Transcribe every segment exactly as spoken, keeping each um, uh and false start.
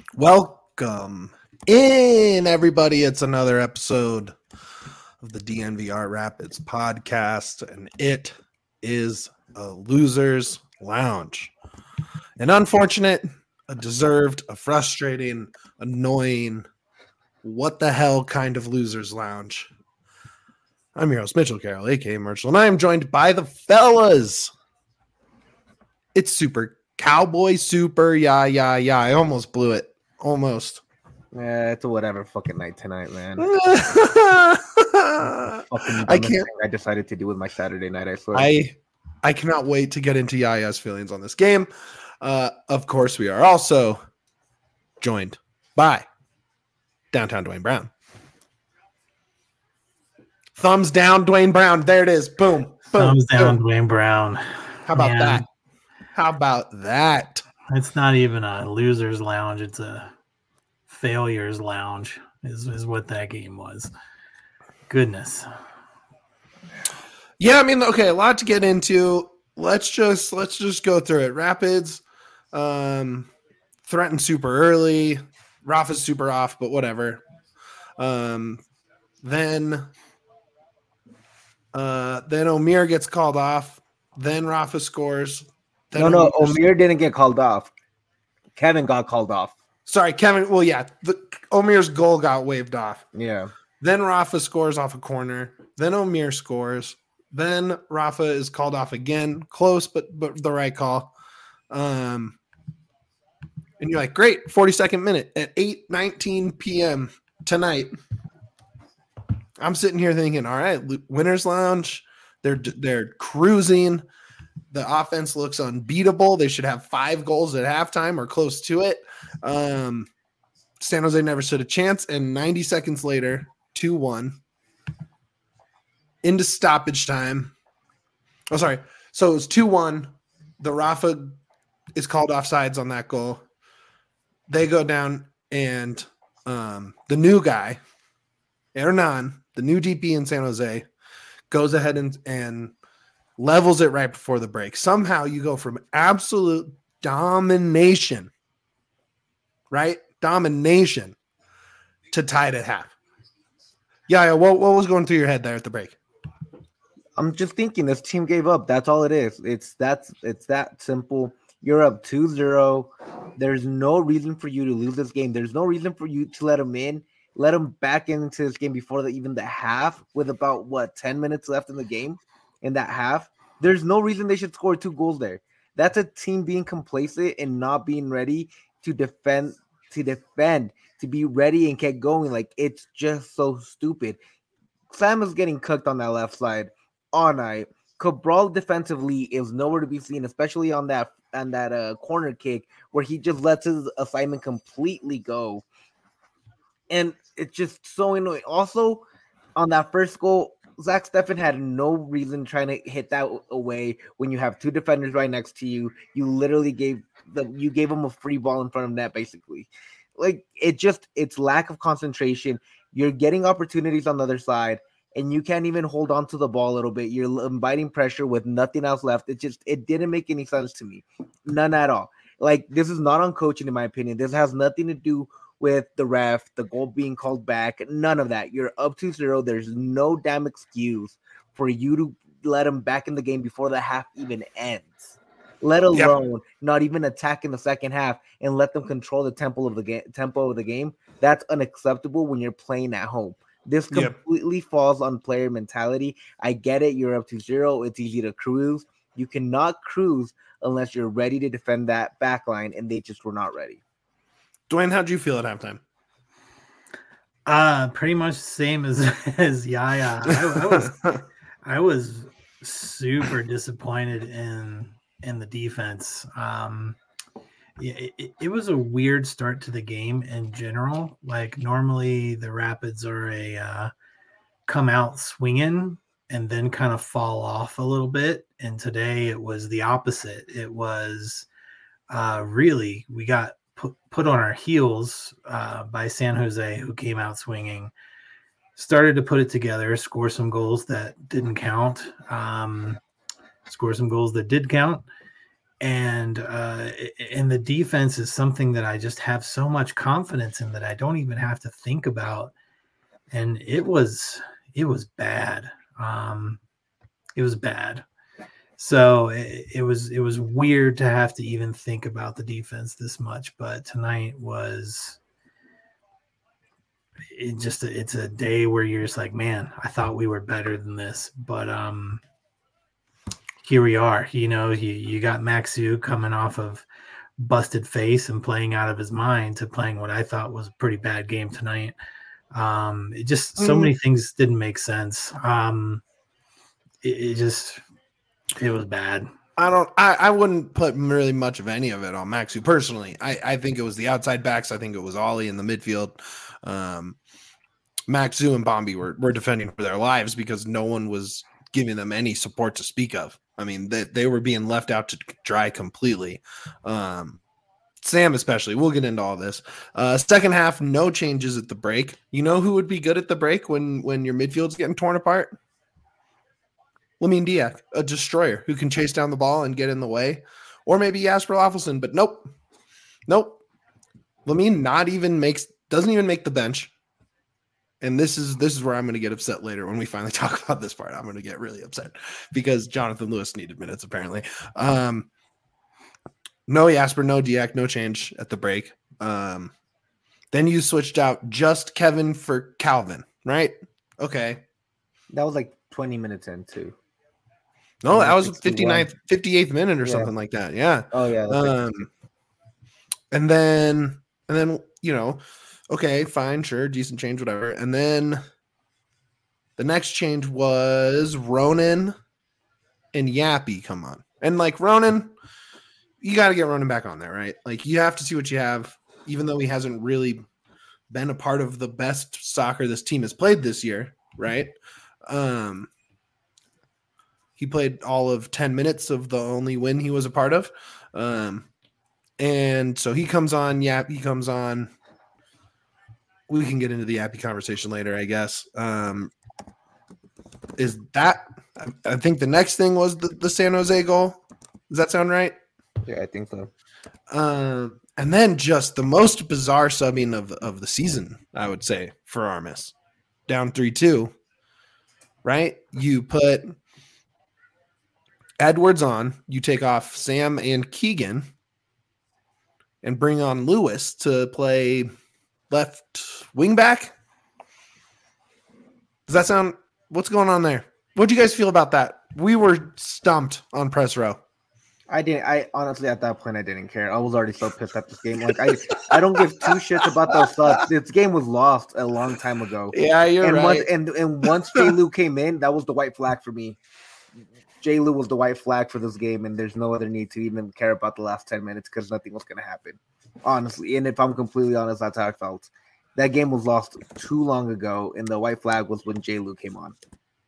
Welcome in, everybody. It's another episode of the D N V R Rapids podcast, and it is a loser's lounge. An unfortunate, a deserved, a frustrating, annoying, what the hell kind of loser's lounge. I'm your host, Mitchell Carroll, aka Merchel, and I am joined by the fellas. It's Super Cowboy Super, yeah, yeah, yeah. I almost blew it. Almost. Yeah, it's a whatever fucking night tonight, man. fucking I can't. I decided to do with my Saturday night. I swear. I I cannot wait to get into Yaya's feelings on this game. Uh, of course, we are also joined by Downtown Dwayne Brown. Thumbs down, Dwayne Brown. There it is. Boom. boom Thumbs down, boom. Dwayne Brown. How about Man, that? How about that? It's not even a loser's lounge. It's a failures lounge is, is what that game was. Goodness. Yeah, I mean, okay, a lot to get into. Let's just let's just go through it. Rapids um, threatened super early. Rafa's super off, but whatever. Um, then uh, then Omir gets called off. Then Rafa scores. Then no, no, Omir, Omir didn't get called off. Kevin got called off. Sorry, Kevin. Well, yeah, the, Omir's goal got waved off. Yeah. Then Rafa scores off a corner. Then Omir scores. Then Rafa is called off again. Close, but but the right call. Um, and you're like, great, forty-second minute at eight nineteen p.m. tonight. I'm sitting here thinking, all right, winner's lounge. They're they're cruising. The offense looks unbeatable. They should have five goals at halftime or close to it. Um, San Jose never stood a chance, and ninety seconds later, two one. Into stoppage time. Oh, sorry. So it was two one. The Rafa is called offsides on that goal. They go down, and um, the new guy, Hernan, the new D P in San Jose, goes ahead and, and levels it right before the break. Somehow you go from absolute domination, right? Domination to tied at half. Yeah, yeah. What, what was going through your head there at the break? I'm just thinking this team gave up. That's all it is. It's that's it's that simple. You're up two zero. There's no reason for you to lose this game. There's no reason for you to let them in. Let them back into this game before the, even the half with about, what, ten minutes left in the game in that half. There's no reason they should score two goals there. That's a team being complacent and not being ready to defend, to defend, to be ready and get going. Like, it's just so stupid. Sam is getting cooked on that left side all night. Cabral defensively is nowhere to be seen, especially on that on that uh, corner kick where he just lets his assignment completely go. And it's just so annoying. Also, on that first goal, Zach Steffen had no reason trying to hit that away when you have two defenders right next to you. You literally gave the you gave him a free ball in front of net, basically. Like, it just it's lack of concentration. You're getting opportunities on the other side, and you can't even hold on to the ball a little bit. You're inviting pressure with nothing else left. It just it didn't make any sense to me. None at all. Like, this is not on coaching, in my opinion. This has nothing to do with the ref, the goal being called back, none of that. You're up two zero. There's no damn excuse for you to let them back in the game before the half even ends, let alone yep. not even attack in the second half and let them control the tempo of the game. Tempo of the game. That's unacceptable when you're playing at home. This completely yep. falls on player mentality. I get it. You're up two zero. It's easy to cruise. You cannot cruise unless you're ready to defend that back line, and they just were not ready. Dwayne, how'd you feel at halftime? Uh, pretty much the same as as Yaya. I, I was I was super disappointed in in the defense. Um, it, it, it was a weird start to the game in general. Like, normally the Rapids are a uh, come out swinging and then kind of fall off a little bit. And today it was the opposite. It was uh, really we got. Put, put on our heels uh, by San Jose, who came out swinging, started to put it together, score some goals that didn't count, um, score some goals that did count, and uh, and the defense is something that I just have so much confidence in that I don't even have to think about. And it was it was bad. Um, it was bad. So it, it was it was weird to have to even think about the defense this much. But tonight was it just it's a day where you're just like, man, I thought we were better than this, but um. Here we are. You know, you, you got Maxu coming off of busted face and playing out of his mind to playing what I thought was a pretty bad game tonight. Um, it just so many things didn't make sense. Um, it, it just it was bad. I don't. I, I wouldn't put really much of any of it on Maxu personally. I, I think it was the outside backs. I think it was Ollie in the midfield. Um, Maxu and Bombi were were defending for their lives because no one was giving them any support to speak of. I mean, they, they were being left out to dry completely. Um, Sam especially. We'll get into all this. Uh, second half, no changes at the break. You know who would be good at the break when, when your midfield's getting torn apart? Lamine Diak, a destroyer who can chase down the ball and get in the way. Or maybe Jasper Loffelson, but nope. Nope. Lamine not even makes doesn't even make the bench. And this is this is where I'm going to get upset later when we finally talk about this part. I'm going to get really upset because Jonathan Lewis needed minutes, apparently. Um, no Jasper, no Diak, no change at the break. Um, then you switched out just Kevin for Calvin, right? Okay. That was like twenty minutes in, too. No, that was fifty-ninth, fifty-eighth minute or yeah. something like that. Yeah. Oh, yeah. Um, and then, and then, you know, okay, fine, sure, decent change, whatever. And then the next change was Ronan and Yappy come on. And, like, Ronan, you got to get Ronan back on there, right? Like, you have to see what you have, even though he hasn't really been a part of the best soccer this team has played this year, right? Um, he played all of ten minutes of the only win he was a part of. Um, and so he comes on, Yap, he comes on. We can get into the Yappy conversation later, I guess. Um, is that – I think the next thing was the, the San Jose goal. Does that sound right? Yeah, I think so. Uh, and then just the most bizarre subbing of, of the season, I would say, for Armas. Down three two, right? You put Edwards on. You take off Sam and Keegan and bring on Lewis to play – left wing back. Does that sound? What's going on there? What do you guys feel about that? We were stumped on press row. I didn't. I honestly, at that point, I didn't care. I was already so pissed at this game. Like I, I don't give two shits about those subs. This game was lost a long time ago. Yeah, you're and right. Once, and and once J. Lou came in, that was the white flag for me. J. Lou was the white flag for this game, and there's no other need to even care about the last ten minutes because nothing was going to happen. Honestly, and if I'm completely honest, that's how I felt. That game was lost too long ago, and the white flag was when J. Lou came on.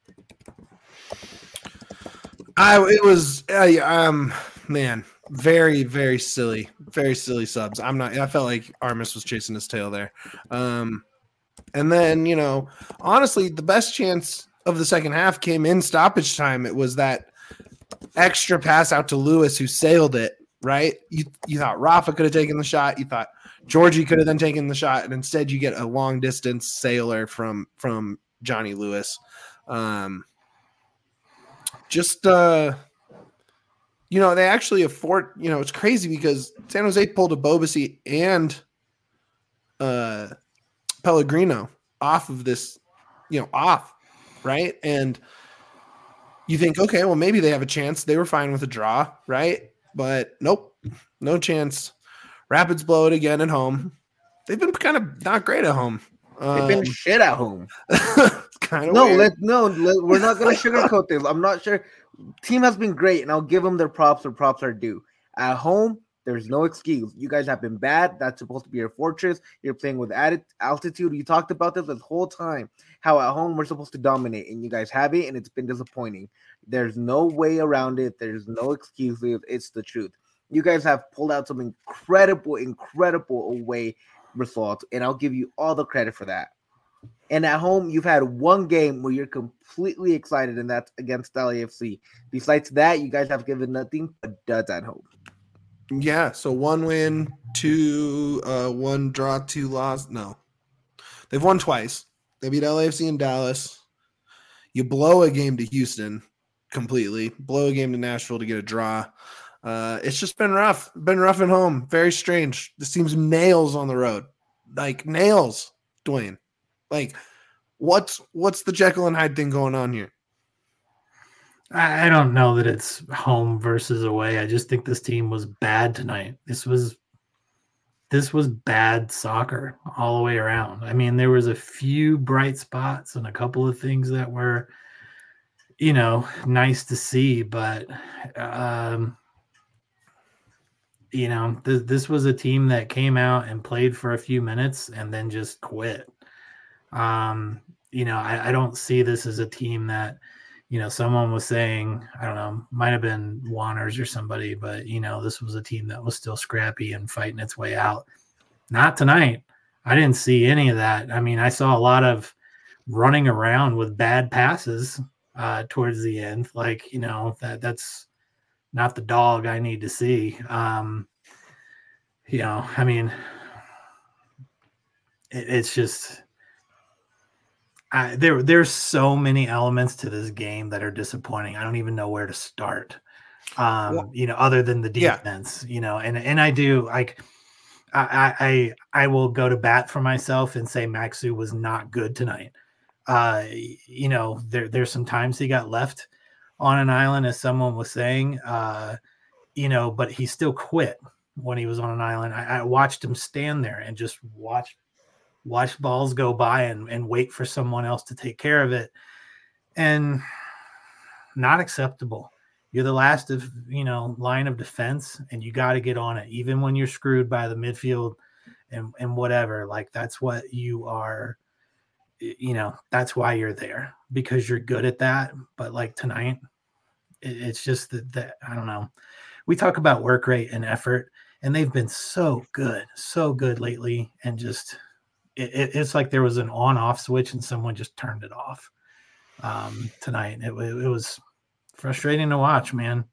I it was uh, um man, very very silly, very silly subs. I'm not. I felt like Armas was chasing his tail there. Um, and then you know, honestly, the best chance of the second half came in stoppage time. It was that extra pass out to Lewis who sailed it. Right? You you thought Rafa could have taken the shot. You thought Georgie could have then taken the shot, and instead you get a long distance sailor from from Johnny Lewis. Um, just uh, you know, they actually afford. You know, it's crazy because San Jose pulled a Bobasi and uh, Pellegrino off of this. You know, off right, and you think, okay, well maybe they have a chance. They were fine with a draw, right? But nope, no chance. Rapids blow it again at home. They've been kind of not great at home. Um, They've been shit at home. kind of no, weird. let no, let, we're not going to sugarcoat this. I'm not sure. Team has been great, and I'll give them their props. Their props are due. At home, there's no excuse. You guys have been bad. That's supposed to be your fortress. You're playing with added altitude. You talked about this this whole time. How at home we're supposed to dominate, and you guys have it, and it's been disappointing. There's no way around it. There's no excuses. It's the truth. You guys have pulled out some incredible, incredible away results, and I'll give you all the credit for that. And at home, you've had one game where you're completely excited, and that's against L A F C. Besides that, you guys have given nothing but duds at home. Yeah, so one win, two, uh, one draw, two loss. No, they've won twice. They beat L A F C in Dallas. You blow a game to Houston completely. Blow a game to Nashville to get a draw. Uh, it's just been rough. Been rough at home. Very strange. This team's nails on the road, like nails, Dwayne. Like, what's what's the Jekyll and Hyde thing going on here? I don't know that it's home versus away. I just think this team was bad tonight. This was this was bad soccer all the way around. I mean, there was a few bright spots and a couple of things that were, you know, nice to see, but um, you know, th- this was a team that came out and played for a few minutes and then just quit. Um, you know, I, I don't see this as a team that, you know, someone was saying, I don't know, might have been Wanners or somebody, but, you know, this was a team that was still scrappy and fighting its way out. Not tonight. I didn't see any of that. I mean, I saw a lot of running around with bad passes uh, towards the end. Like, you know, that that's not the dog I need to see. Um, you know, I mean, it, it's just... I, there, there's so many elements to this game that are disappointing. I don't even know where to start. Um, well, you know, other than the defense, yeah. you know, and and I do like, I I I will go to bat for myself and say Maxu was not good tonight. Uh, you know, there there's some times he got left on an island, as someone was saying. Uh, you know, but he still quit when he was on an island. I, I watched him stand there and just watch. watch balls go by and, and wait for someone else to take care of it. And not acceptable. You're the last of, you know, line of defense, and you got to get on it, even when you're screwed by the midfield and, and whatever. Like, that's what you are, you know, that's why you're there, because you're good at that. But like tonight, it, it's just that, that, I don't know. We talk about work rate and effort, and they've been so good, so good lately. And just, It, it's like there was an on-off switch and someone just turned it off um, tonight. It, it, it was frustrating to watch, man.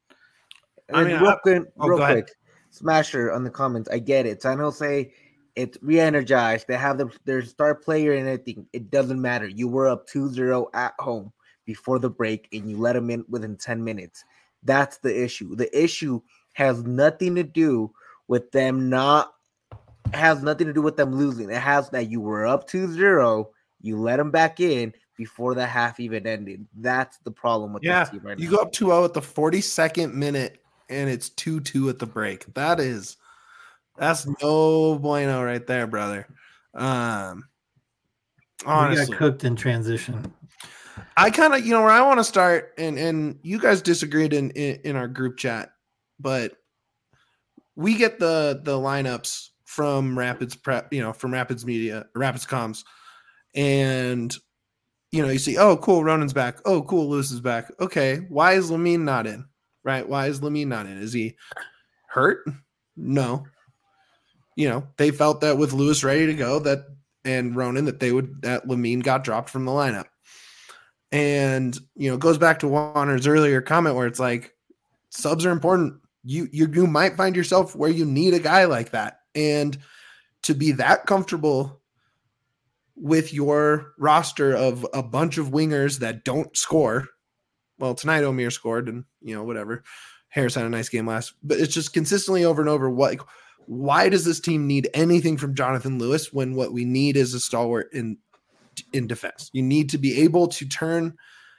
I mean, real, quick, oh, real quick, Smasher on the comments. I get it. San Jose, it's re-energized. They have the, their star player and everything. It doesn't matter. You were up two zero at home before the break, and you let them in within ten minutes. That's the issue. The issue has nothing to do with them not has nothing to do with them losing. It has that you were up two zero, you let them back in before the half even ended. That's the problem with yeah, this team right you now. go up two oh at the forty-second minute, and it's two two at the break. That is, that's no bueno right there, brother. Um, honestly. We got cooked in transition. I kind of, you know, where I want to start, and, and you guys disagreed in, in, in our group chat, but we get the the lineups from Rapids Prep, you know, from Rapids Media, Rapids Comms. And, you know, you see, oh, cool, Ronan's back. Oh, cool, Lewis is back. Okay, why is Lamine not in? Right? Why is Lamine not in? Is he hurt? No. You know, they felt that with Lewis ready to go, that and Ronan, that they would, that Lamine got dropped from the lineup. And, you know, it goes back to Warner's earlier comment where it's like, subs are important. You, you, you might find yourself where you need a guy like that. And to be that comfortable with your roster of a bunch of wingers that don't score. Well, tonight Omier scored, and, you know, whatever. Harris had a nice game last, but it's just consistently over and over. What, why does this team need anything from Jonathan Lewis when what we need is a stalwart in, in defense? You need to be able to turn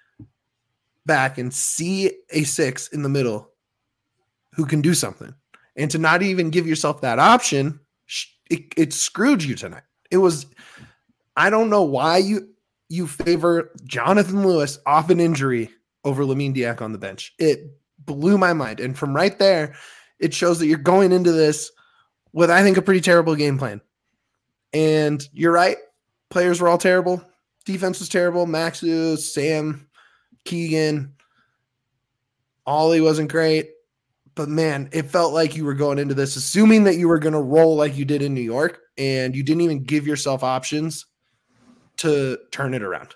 back and see a six in the middle who can do something. And to not even give yourself that option, it, it screwed you tonight. It was, I don't know why you you favor Jonathan Lewis off an injury over Lamine Diack on the bench. It blew my mind. And from right there, it shows that you're going into this with, I think, a pretty terrible game plan. And you're right. Players were all terrible. Defense was terrible. Maxu, Sam, Keegan, Ollie wasn't great. But, man, it felt like you were going into this assuming that you were going to roll like you did in New York, and you didn't even give yourself options to turn it around.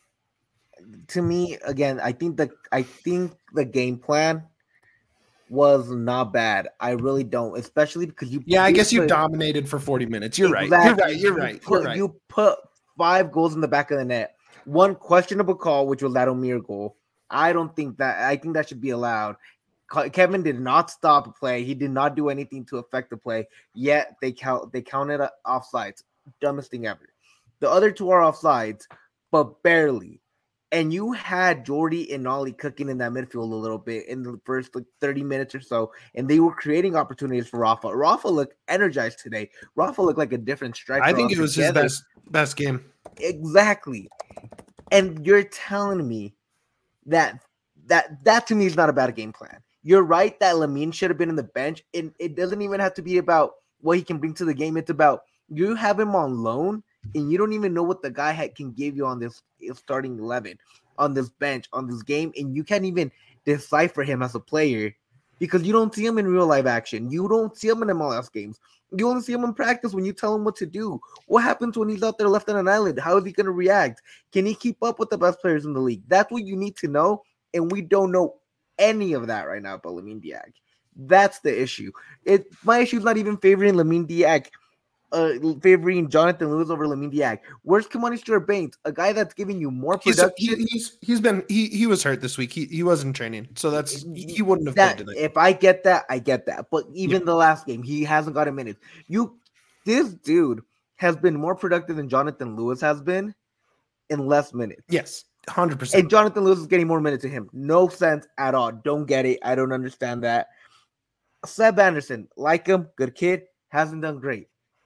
To me, again, I think the I think the game plan was not bad. I really don't, especially because you. Yeah, I guess you put, dominated for forty minutes. You're exactly. right. You're right. You're right. Put, You're right. You put five goals in the back of the net. One questionable call, which was that Omier goal. I don't think that. I think that should be allowed. Kevin did not stop a play. He did not do anything to affect the play. Yet they count. They counted offsides. Dumbest thing ever. The other two are offsides, but barely. And you had Jordy and Ollie cooking in that midfield a little bit in the first like thirty minutes or so, and they were creating opportunities for Rafa. Rafa looked energized today. Rafa looked like a different striker. I think it was his best best game. Exactly. And you're telling me that that that to me is not a bad game plan. You're right that Lamine should have been in the bench, and it doesn't even have to be about what he can bring to the game. It's about you have him on loan, and you don't even know what the guy had, can give you on this starting eleven, on this bench, on this game, and you can't even decipher him as a player because you don't see him in real life action. You don't see him in M L S games. You only see him in practice when you tell him what to do. What happens when he's out there left on an island? How is he going to react? Can he keep up with the best players in the league? That's what you need to know, and we don't know any of that right now about Lamine Diack. That's the issue. It my issue is not even favoring Lamine Diack, uh, favoring Jonathan Lewis over Lamine Diack. Where's Kimani Stewart-Baines, a guy that's giving you more production? He's he, he's, he's been he he was hurt this week. He he wasn't training, so that's he wouldn't have that. played tonight. If I get that, I get that. But even yeah. the last game, he hasn't got a minute. You, this dude has been more productive than Jonathan Lewis has been in less minutes. Yes. one hundred percent. And Jonathan Lewis is getting more minutes to him. No sense at all. Don't get it. I don't understand that. Seb Anderson, like him, good kid, hasn't done great.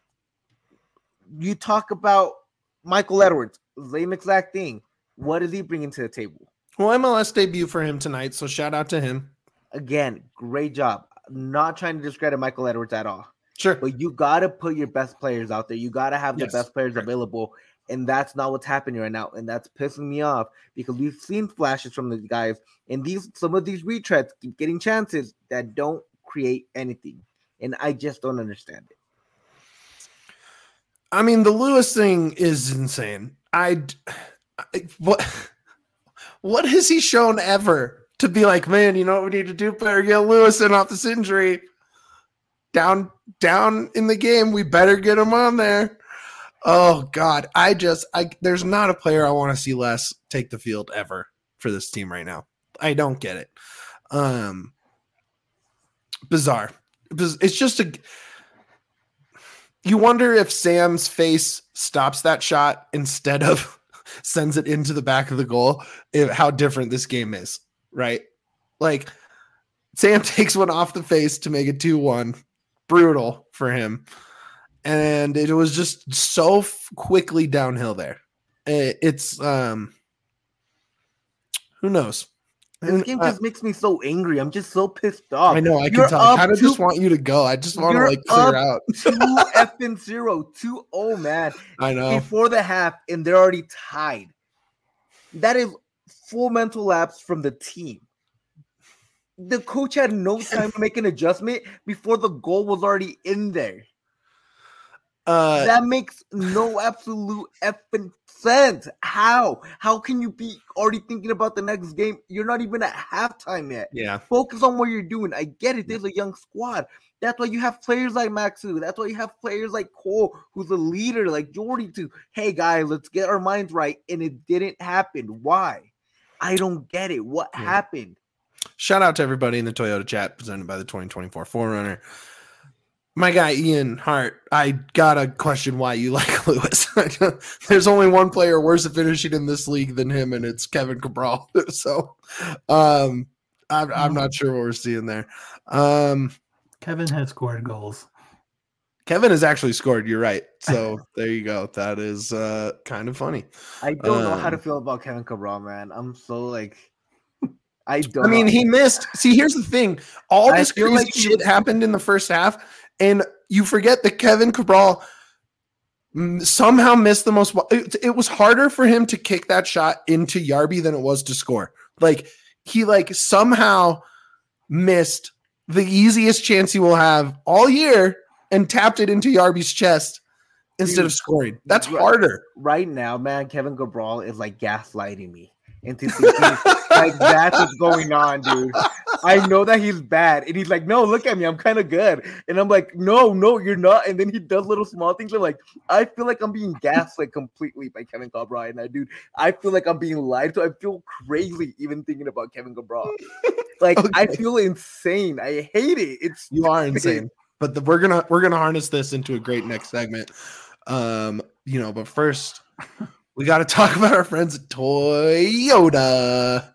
You talk about Michael Edwards, same exact thing. What is he bringing to the table? Well, M L S debut for him tonight, so shout out to him. Again, great job. I'm not trying to discredit Michael Edwards at all. Sure. But you got to put your best players out there. You got to have the yes. best players right. available. And that's not what's happening right now. And that's pissing me off because we've seen flashes from the guys. And these some of these retreads keep getting chances that don't create anything. And I just don't understand it. I mean, the Lewis thing is insane. I, I what what has he shown ever to be like, man, you know what we need to do? Better get Lewis in off this injury. Down, down in the game, we better get him on there. Oh God, I just I there's not a player I want to see less take the field ever for this team right now. I don't get it. Um, bizarre. It's just a. You wonder if Sam's face stops that shot instead of sends it into the back of the goal. If, how different this game is, right? Like Sam takes one off the face to make it two one. Brutal for him. And it was just so f- quickly downhill there. It, it's um, who knows? This game just uh, makes me so angry. I'm just so pissed off. I know. I can tell. I kind of just want you to go. I just want to like clear out. two effing zero, two oh man. I know. Before the half, and they're already tied. That is full mental lapse from the team. The coach had no time to make an adjustment before the goal was already in there. Uh, that makes no absolute effing sense. How? How can you be already thinking about the next game? You're not even at halftime yet. Yeah. Focus on what you're doing. I get it. There's a young squad. That's why you have players like Maxu. That's why you have players like Cole, who's a leader, like Jordy, to, hey, guys, let's get our minds right. And it didn't happen. Why? I don't get it. What yeah. happened? Shout out to everybody in the Toyota chat presented by the twenty twenty-four four runner. My guy, Ian Hart, I gotta question why you like Lewis. There's only one player worse at finishing in this league than him, and it's Kevin Cabral. So um, I'm, I'm not sure what we're seeing there. Um, Kevin has scored goals. Kevin has actually scored. You're right. So there you go. That is uh, kind of funny. I don't um, know how to feel about Kevin Cabral, man. I'm so like... I don't I mean, know. he missed. See, here's the thing. All I this feel crazy like he- shit happened in the first half, and you forget that Kevin Cabral somehow missed the most. It, it was harder for him to kick that shot into Yarby than it was to score. Like, he like somehow missed the easiest chance he will have all year and tapped it into Yarby's chest instead Dude, of scoring. That's right- harder. Right now, man, Kevin Cabral is like gaslighting me into thinking like that's what's going on, dude. I know that he's bad, and he's like, "No, look at me, I'm kind of good," and I'm like, "No, no, you're not." And then he does little small things. I'm like, I feel like I'm being gaslit completely by Kevin Cabral, and I, dude, I feel like I'm being lied to. I feel crazy even thinking about Kevin Cabral. Like, Okay. I feel insane. I hate it. It's You are insane. But the, we're gonna we're gonna harness this into a great next segment. Um, you know, but first we got to talk about our friends at Toyota.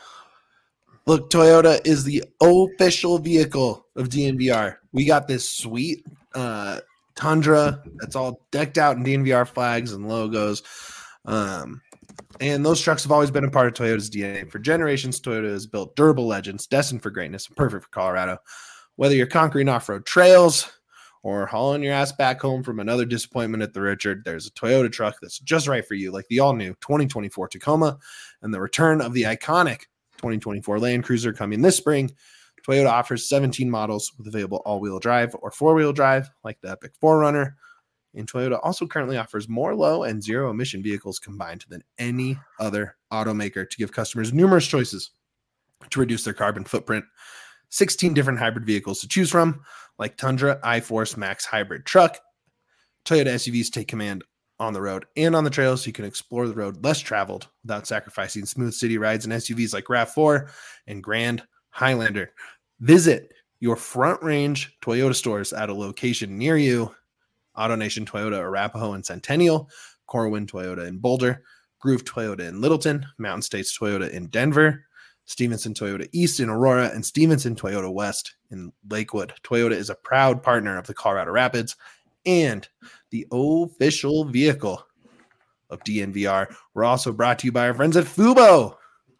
Look, Toyota is the official vehicle of D N V R. We got this sweet uh, Tundra that's all decked out in D N V R flags and logos. Um, and those trucks have always been a part of Toyota's D N A. For generations, Toyota has built durable legends destined for greatness and perfect for Colorado. Whether you're conquering off-road trails or hauling your ass back home from another disappointment at the Richard, there's a Toyota truck that's just right for you, like the all-new twenty twenty-four Tacoma and the return of the iconic twenty twenty-four Land Cruiser coming this spring. Toyota offers seventeen models with available all-wheel drive or four-wheel drive, like the Epic four runner. And Toyota also currently offers more low and zero emission vehicles combined than any other automaker to give customers numerous choices to reduce their carbon footprint. sixteen different hybrid vehicles to choose from, like Tundra, iForce, Max Hybrid Truck. Toyota S U Vs take command on the road and on the trails, so you can explore the road less traveled without sacrificing smooth city rides in S U Vs like RAV four and Grand Highlander. Visit your Front Range Toyota stores at a location near you. AutoNation Toyota Arapahoe and Centennial, Corwin Toyota in Boulder, Groove Toyota in Littleton, Mountain States Toyota in Denver, Stevenson Toyota East in Aurora, and Stevenson Toyota West in Lakewood. Toyota is a proud partner of the Colorado Rapids and the official vehicle of D N V R. We're also brought to you by our friends at Fubo.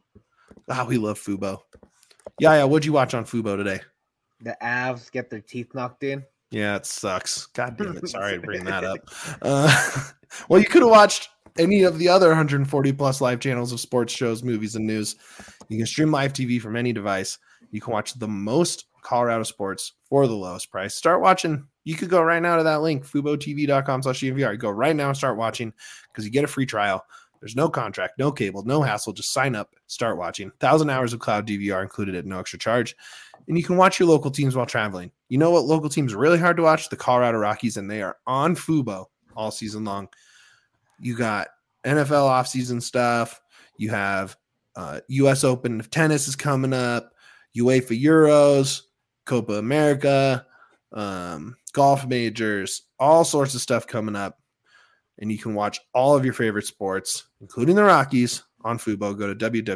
Ah, we love Fubo. Yeah, yeah. What'd you watch on Fubo today? The Avs get their teeth knocked in. Yeah, it sucks. God damn it. Sorry to bring that up. Uh, well, you could have watched any of the other one hundred forty plus live channels of sports shows, movies, and news. You can stream live T V from any device. You can watch the most Colorado sports for the lowest price. Start watching. You could go right now to that link, FuboTV.com slash DNVR. Go right now and start watching because you get a free trial. There's no contract, no cable, no hassle. Just sign up, start watching. one thousand hours of cloud D V R included at no extra charge. And you can watch your local teams while traveling. You know what local teams are really hard to watch? The Colorado Rockies, and they are on Fubo all season long. You got N F L offseason stuff. You have uh, U S Open of tennis is coming up. UEFA Euros, Copa America, um, golf majors, all sorts of stuff coming up. And you can watch all of your favorite sports, including the Rockies, on Fubo. Go to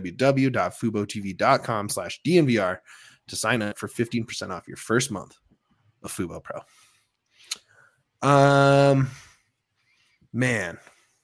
www.fubotv.com slash DNVR to sign up for fifteen percent off your first month of Fubo Pro. Um, man,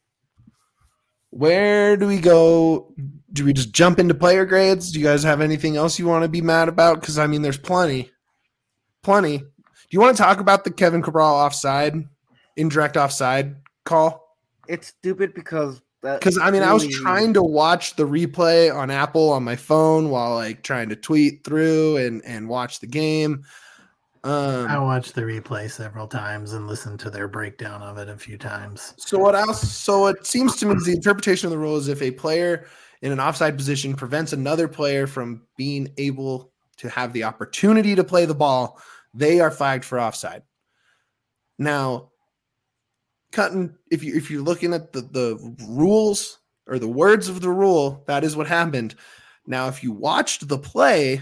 where do we go? Do we just jump into player grades? Do you guys have anything else you want to be mad about? Because, I mean, there's plenty. Plenty. Do you want to talk about the Kevin Cabral offside, indirect offside call? It's stupid because because I mean really... I was trying to watch the replay on Apple on my phone while like trying to tweet through and and watch the game. Um, I watched the replay several times and listened to their breakdown of it a few times. So what else? So it seems to me the interpretation of the rule is if a player in an offside position prevents another player from being able to have the opportunity to play the ball, they are flagged for offside. Now, cutting if you if you're looking at the, the rules or the words of the rule, that is what happened. Now, if you watched the play,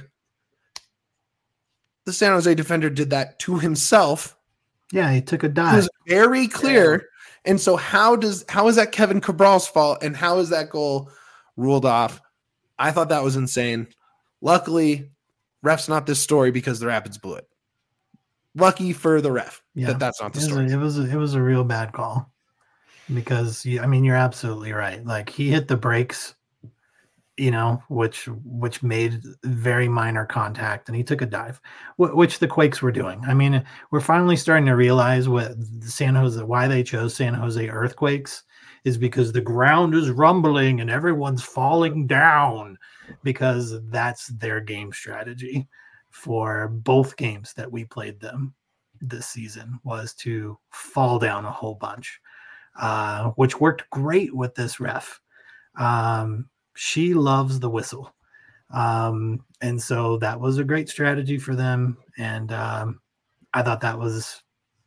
the San Jose defender did that to himself. Yeah, he took a dive. It was very clear. Yeah. And so how does how is that Kevin Cabral's fault and how is that goal ruled off? I thought that was insane. Luckily, ref's not this story because the Rapids blew it. Lucky for the ref yeah. that that's not the it story. Was a, it was a, it was a real bad call because I mean you're absolutely right. Like he hit the brakes, you know, which which made very minor contact, and he took a dive, which the Quakes were doing. I mean, we're finally starting to realize what San Jose, why they chose San Jose Earthquakes, is because the ground is rumbling and everyone's falling down, because that's their game strategy for both games that we played them. this season was to fall down a whole bunch, uh, which worked great with this ref. Um, she loves the whistle. Um, and so that was a great strategy for them. And um, I thought that was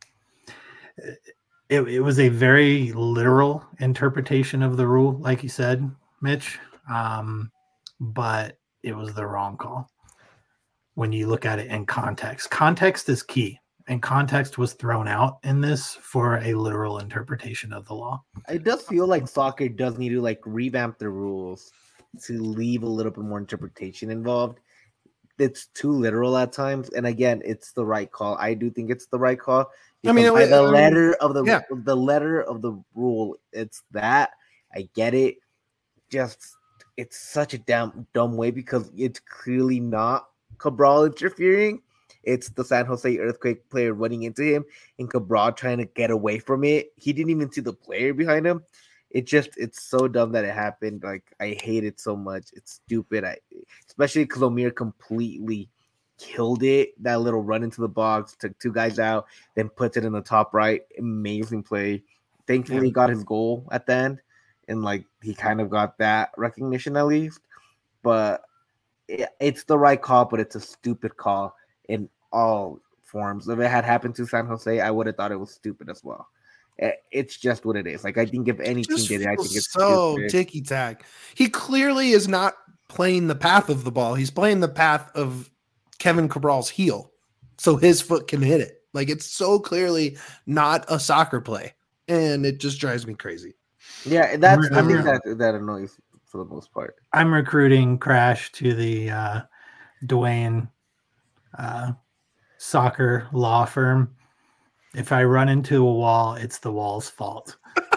it, it was a very literal interpretation of the rule, like you said, Mitch. Um, but it was the wrong call when you look at it in context. Context is key, and context was thrown out in this for a literal interpretation of the law. It does feel like soccer does need to like revamp the rules to leave a little bit more interpretation involved. It's too literal at times, and again, it's the right call. I do think it's the right call. I mean, it, by the I mean, letter of the yeah. the letter of the rule, it's that. I get it. Just it's such a damn dumb way because it's clearly not Cabral interfering. It's the San Jose Earthquake player running into him and Cabral trying to get away from it. He didn't even see the player behind him. It just, it's so dumb that it happened. Like, I hate it so much. It's stupid. I, especially because Omir completely killed it. That little run into the box, took two guys out, then puts it in the top right. Amazing play. Thankfully, Yeah. he got his goal at the end. And, like, he kind of got that recognition at least. But it, it's the right call, but it's a stupid call in all forms. If it had happened to San Jose, I would have thought it was stupid as well. It's just what it is. Like, I think if any team did it, I think it's so stupid. ticky tack. He clearly is not playing the path of the ball. He's playing the path of Kevin Cabral's heel, so his foot can hit it. Like, it's so clearly not a soccer play, and it just drives me crazy. Yeah, that's I'm, the I'm, thing that, that annoys for the most part. I'm recruiting Crash to the uh, Dwayne uh, soccer law firm. If I run into a wall, it's the wall's fault.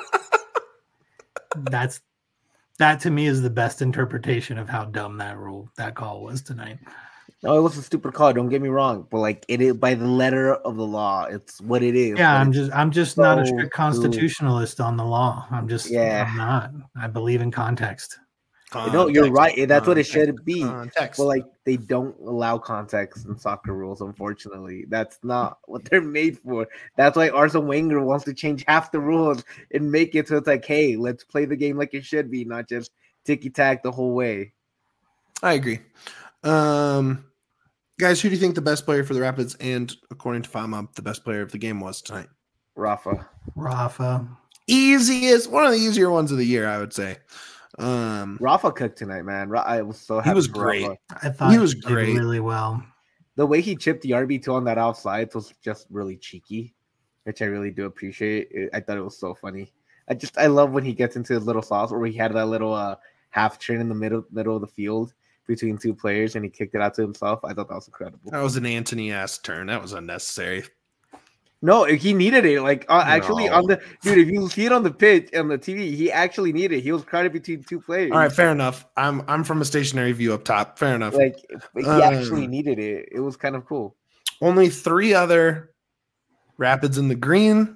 That's that to me is the best interpretation of how dumb that rule, that call was tonight. No, it was a stupid call. Don't get me wrong, but like it is by the letter of the law. It's what it is. Yeah, I'm just I'm just so not a strict constitutionalist on the law. I'm just Yeah. I'm not. I believe in context. No, you're right. That's what it should be. Context. But like they don't allow context in soccer rules, unfortunately. That's not what they're made for. That's why Arsene Wenger wants to change half the rules and make it so it's like, hey, let's play the game like it should be, not just ticky-tack the whole way. I agree. Um, guys, who do you think the best player for the Rapids and, according to Fama, the best player of the game was tonight? Rafa. Rafa. Easiest, one of the easier ones of the year, I would say. Um, Rafa cooked tonight, man. Ra- I was so happy. he was for great. Rafa. I thought He was did great. really well. The way he chipped the R B two on that outside was just really cheeky, which I really do appreciate. It, I thought it was so funny. I just I love when he gets into his little sauce where he had that little uh, half turn in the middle middle of the field between two players and he kicked it out to himself. I thought that was incredible. that was an Anthony ass turn. That was unnecessary. No, he needed it. Like uh, actually No. on the dude, if you see it on the pitch on the T V, he actually needed it. He was crowded between two players. All right, fair enough. I'm I'm from a stationary view up top. Fair enough. Like he Um, actually needed it. It was kind of cool. Only three other Rapids in the green.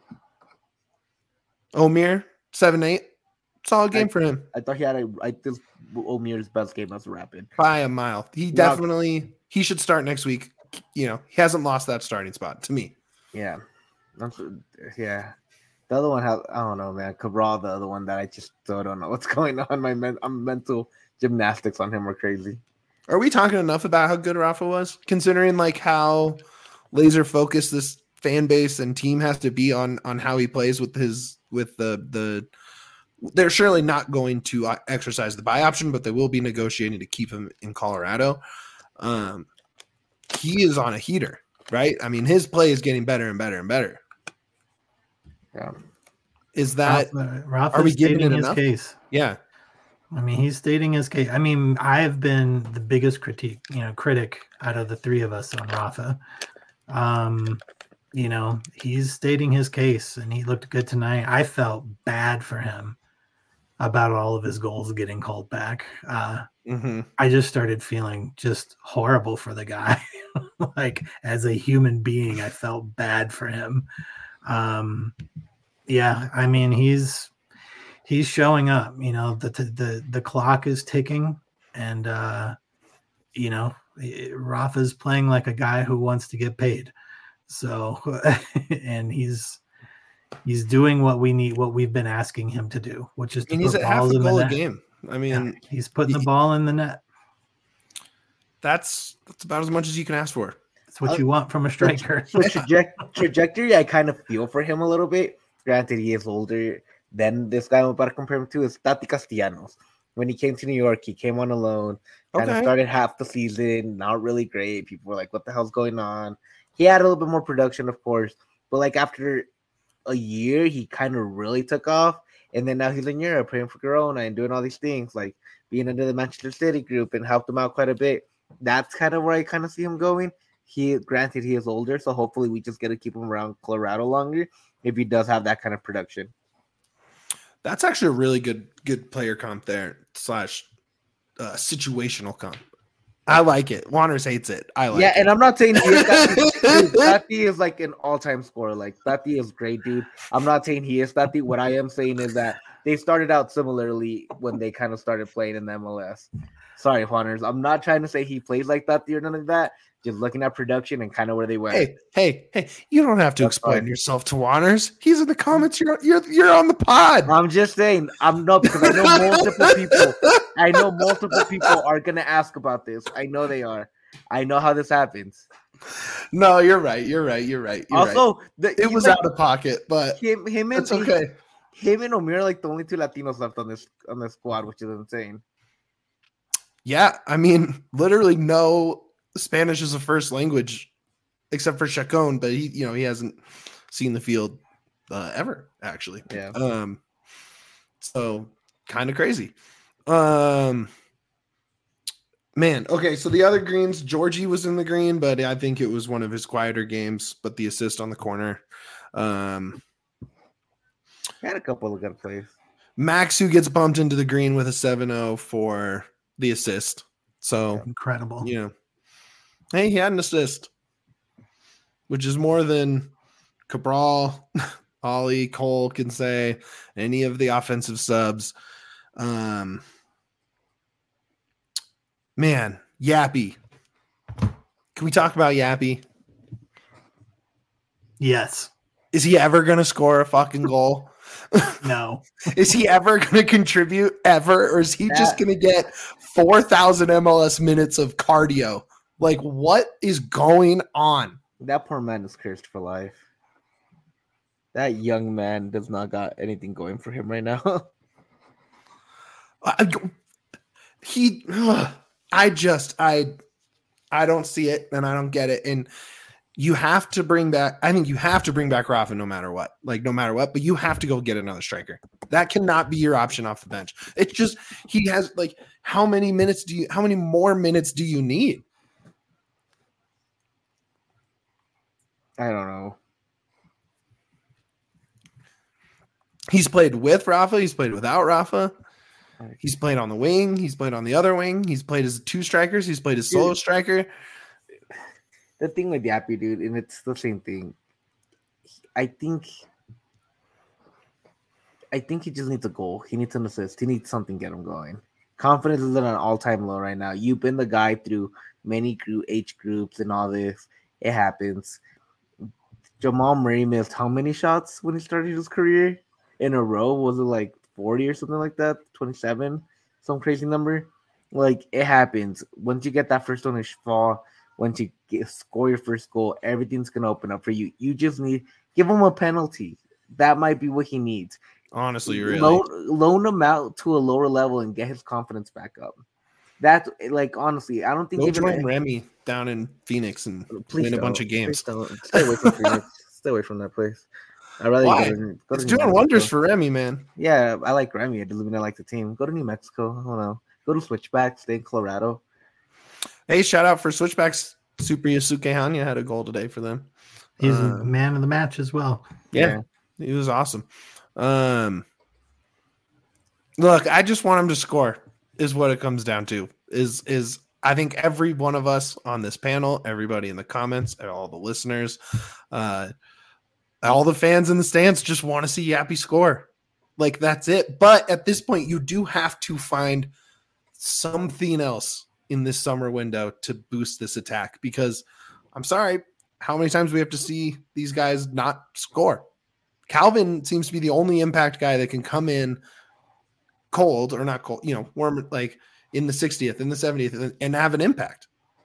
Omir, seven eight. Solid game I- for him I thought he had a I this Omir's best game as a Rapid. by a mile. He definitely he should start next week. You know, he hasn't lost that starting spot to me. Yeah. That's, yeah. The other one has I don't know, man. Cabral, the other one that I just still don't know what's going on. My men, I'm mental gymnastics on him are crazy. Are we talking enough about how good Rafa was, considering like how laser focused this fan base and team has to be on on how he plays with his with the the. They're surely not going to uh, exercise the buy option, but they will be negotiating to keep him in Colorado. Um, he is on a heater, right? I mean, his play is getting better and better and better. Yeah. Is that Rafa, Rafa's are we giving stating it his enough? case. yeah? I mean, he's stating his case. I mean, I have been the biggest critique, you know, critic out of the three of us on Rafa. Um, you know, he's stating his case, and he looked good tonight. I felt bad for him about all of his goals getting called back. Uh, Mm-hmm. I just started feeling just horrible for the guy. Like, as a human being, I felt bad for him. Um, yeah, I mean, he's he's showing up. You know, the the the clock is ticking, and uh, you know, Rafa's playing like a guy who wants to get paid. So, and he's he's doing what we need, what we've been asking him to do, which is to And he's put at half balls a in the goal a net. game. I mean, Yeah, he's putting he, the ball in the net. That's that's about as much as you can ask for. That's what Uh, you want from a striker. The traje- trajectory, I kind of feel for him a little bit. Granted, he is older than this guy I'm about to compare him to is Tati Castellanos. When he came to New York, he came on a loan, kind of Okay. started half the season, not really great. People were like, what the hell's going on? He had a little bit more production, of course, but like after a year, he kind of really took off. And then now he's in Europe playing for Girona and doing all these things, like being under the Manchester City group and helped him out quite a bit. That's kind of where I kind of see him going. He, granted, he is older, so hopefully we just get to keep him around Colorado longer if he does have that kind of production. That's actually a really good good player comp there slash uh, situational comp. I like it. Wanderers hates it. I like yeah, it. and I'm not saying he is Tati. Dude, Tati is like an all-time scorer. Like Tati is great, dude. I'm not saying he is Tati. What I am saying is that they started out similarly when they kind of started playing in the M L S. Sorry, Juaners. I'm not trying to say he plays like Tati or none of that. Just looking at production and kind of where they went. Hey, hey, hey! You don't have to That's explain fine. yourself to Wanderers. He's in the comments. You're you're you're on the pod. I'm just saying. I'm not because I know multiple people. I know multiple people are gonna ask about this. I know they are. I know how this happens. No, you're right. You're right. You're right. You're right. Also, the, It he's was like, out of pocket, but him. Him and it's okay. Him and Omir are like the only two Latinos left on this on this squad, which is insane. Yeah, I mean, literally no Spanish is a first language except for Chacon, but he, you know, he hasn't seen the field uh, ever actually. Yeah. Um, so kind of crazy. Um, man. Okay, so the other greens, Georgie was in the green, but I think it was one of his quieter games. But the assist on the corner. Um, Had a couple of good plays. Max, who gets bumped into the green with a seven oh for the assist. So, Incredible. you know, hey, he had an assist, which is more than Cabral, Ollie, Cole can say, any of the offensive subs. Um, man, Yappy. Can we talk about Yappy? Yes. Is he ever going to score a fucking goal? No. Is he ever going to contribute ever? Or is he That- just going to get four thousand M L S minutes of cardio? Like, what is going on? That poor man is cursed for life. That young man does not got anything going for him right now. I, he, ugh, I just, I, I don't see it and I don't get it. And you have to bring back, I think you have to bring back Rafa no matter what, like no matter what, but you have to go get another striker. That cannot be your option off the bench. It's just, he has like, how many minutes do you, how many more minutes do you need? I don't know. He's played with Rafa. He's played without Rafa. He's played on the wing. He's played on the other wing. He's played as two strikers. He's played as solo striker. The thing with Yappy, dude, and it's the same thing. I think I think he just needs a goal. He needs an assist. He needs something to get him going. Confidence is at an all-time low right now. You've been the guy through many group age groups and all this. It happens. Jamal Murray missed how many shots when he started his career in a row? Was it like forty or something like that? twenty-seven? Some crazy number? Like, it happens. Once you get that first one to fall, once you get, score your first goal, everything's going to open up for you. You just need – give him a penalty. That might be what he needs. Honestly, really. Loan, loan him out to a lower level and get his confidence back up. That's, like, honestly, I don't think Go even join Remy down in Phoenix and Please win a don't. bunch of games. Please don't. Stay away from Phoenix. Stay away from that place. I'd rather Why? go to, go It's to New doing Mexico. wonders for Remy, man. Yeah, I like Remy. I doesn't mean I like the team. Go to New Mexico. I don't know. Go to Switchback. Stay in Colorado. Hey, shout out for Switchbacks. Super Yusuke Hanya had a goal today for them. He's Uh, a man of the match as well. Yeah, he was awesome. Um, look, I just want him to score. Is what it comes down to. Is is I think every one of us on this panel, everybody in the comments, all the listeners, uh, all the fans in the stands just want to see Yappy score. Like, that's it. But at this point, you do have to find something else in this summer window to boost this attack, because I'm sorry, how many times we have to see these guys not score. Calvin seems to be the only impact guy that can come in cold or not cold, you know, warm, like in the sixtieth, in the seventieth, and have an impact.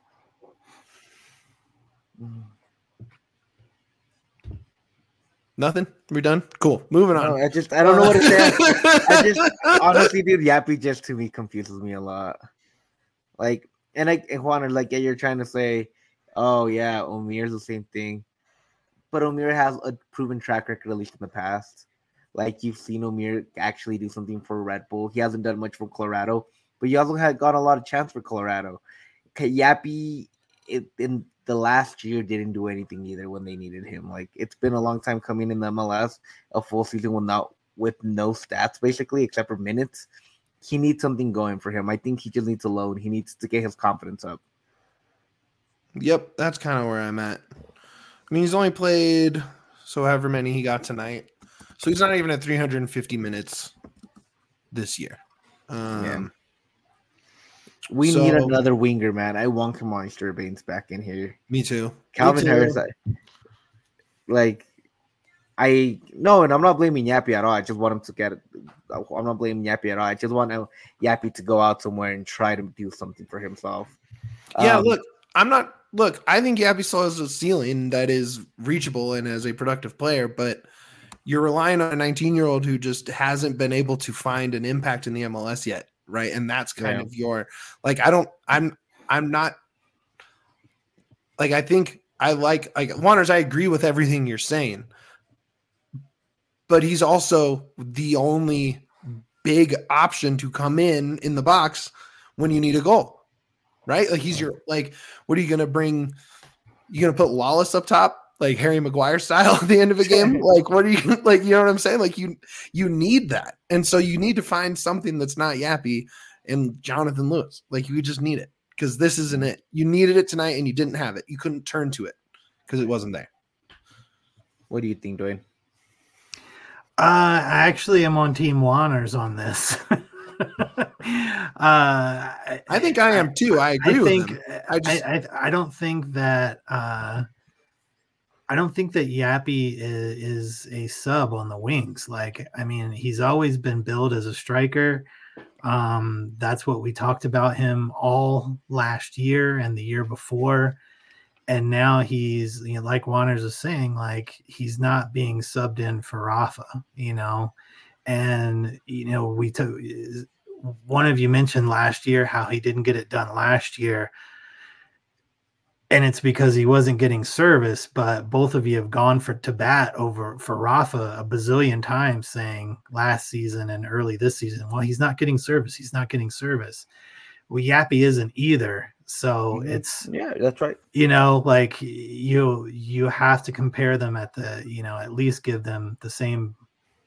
Nothing? We're done? Cool. Moving on. No, I just I don't know what to say. I just honestly, dude, Yappy just to me confuses me a lot. Like, and I Juan, like yeah, you're trying to say, oh yeah, Omir's the same thing. But Omir has a proven track record, at least in the past. Like you've seen Omir actually do something for Red Bull. He hasn't done much for Colorado, but he also had got a lot of chance for Colorado. Yappy it, in the last year didn't do anything either when they needed him. Like it's been a long time coming in the M L S, a full season without with no stats basically except for minutes. He needs something going for him. I think he just needs a load. He needs to get his confidence up. Yep, that's kind of where I'm at. I mean, he's only played so however many he got tonight. So he's not even at three hundred fifty minutes this year. Um, yeah. We so, need another winger, man. I want Kamani Sturbanes back in here. Me too. Calvin me too. Harris, I, like, I no, and I'm not blaming Yappy at all. I just want him to get it. I'm not blaming Yappy at all. I just want Yappy to go out somewhere and try to do something for himself. Yeah, um, look, I'm not. Look, I think Yappy still has a ceiling that is reachable and as a productive player, but you're relying on a nineteen-year-old who just hasn't been able to find an impact in the M L S yet, right? And that's kind yeah. of your like. I don't. I'm. I'm not. Like I think I like like Wanners. I agree with everything you're saying, but he's also the only big option to come in in the box when you need a goal. Right? Like he's your like, what are you gonna bring? You gonna put Lawless up top, like Harry Maguire style at the end of a game? Like, what are you like? You know what I'm saying? Like you you need that. And so you need to find something that's not Yappy and Jonathan Lewis. Like you just need it because this isn't it. You needed it tonight and you didn't have it. You couldn't turn to it because it wasn't there. What do you think, Dwayne? Uh I actually am on Team Wanners on this. uh, I think I am too. I agree I with think, him. I, just, I, I I don't think that uh, I don't think that Yappy is, is a sub on the wings. Like, I mean, he's always been billed as a striker. Um, that's what we talked about him all last year and the year before. And now he's, you know, like Wanners is saying, like he's not being subbed in for Rafa, you know. And, you know, we took one of you mentioned last year how he didn't get it done last year. And it's because he wasn't getting service. But both of you have gone for to bat over for Rafa a bazillion times saying last season and early this season, well, he's not getting service. He's not getting service. Well, Yappy isn't either. So mm-hmm. it's, yeah, that's right. You know, like you, you have to compare them at the, you know, at least give them the same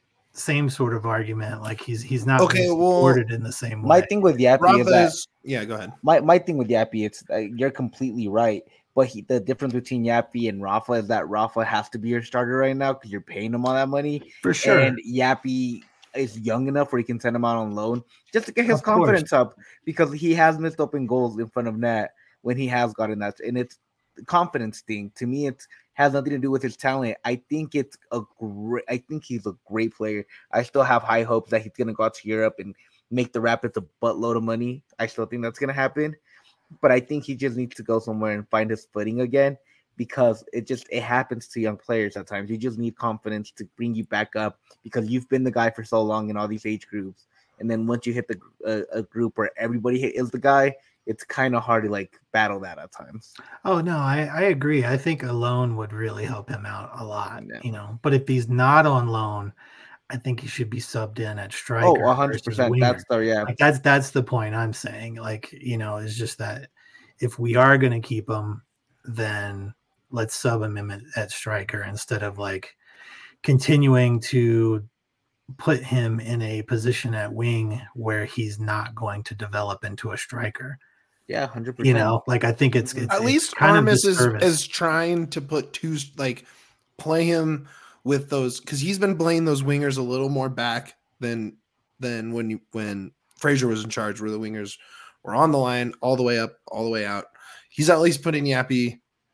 same sort of argument. Like he's he's not okay, supported well, in the same way. My thing with Yappy Rafa is that is, yeah, go ahead. My my thing with Yappy, it's uh, you're completely right. But he, the difference between Yappy and Rafa is that Rafa has to be your starter right now because you're paying him all that money for sure. And Yappy is young enough where he can send him out on loan just to get his of confidence course. up because he has missed open goals in front of net when he has gotten that, and it's the confidence thing. To me, it's has nothing to do with his talent. I think it's a great. I think he's a great player. I still have high hopes that he's gonna go out to Europe and make the Rapids a buttload of money. I still think that's gonna happen, but I think he just needs to go somewhere and find his footing again because it just it happens to young players at times. You just need confidence to bring you back up because you've been the guy for so long in all these age groups, and then once you hit the uh, a group where everybody is the guy, it's kind of hard to like battle that at times. Oh no, I, I agree. I think a loan would really help him out a lot, yeah. you know. But if he's not on loan, I think he should be subbed in at striker. Oh, one hundred percent. That's the yeah. Like that's that's the point I'm saying. Like, you know, it's just that if we are going to keep him, then let's sub him in at, at striker instead of like continuing to put him in a position at wing where he's not going to develop into a striker. Yeah, one hundred percent. You know, like I think it's, it's at it's least kind Armis of is is trying to put two like play him with those because he's been playing those wingers a little more back than than when you when Fraser was in charge, where the wingers were on the line all the way up, all the way out. He's at least putting Yappy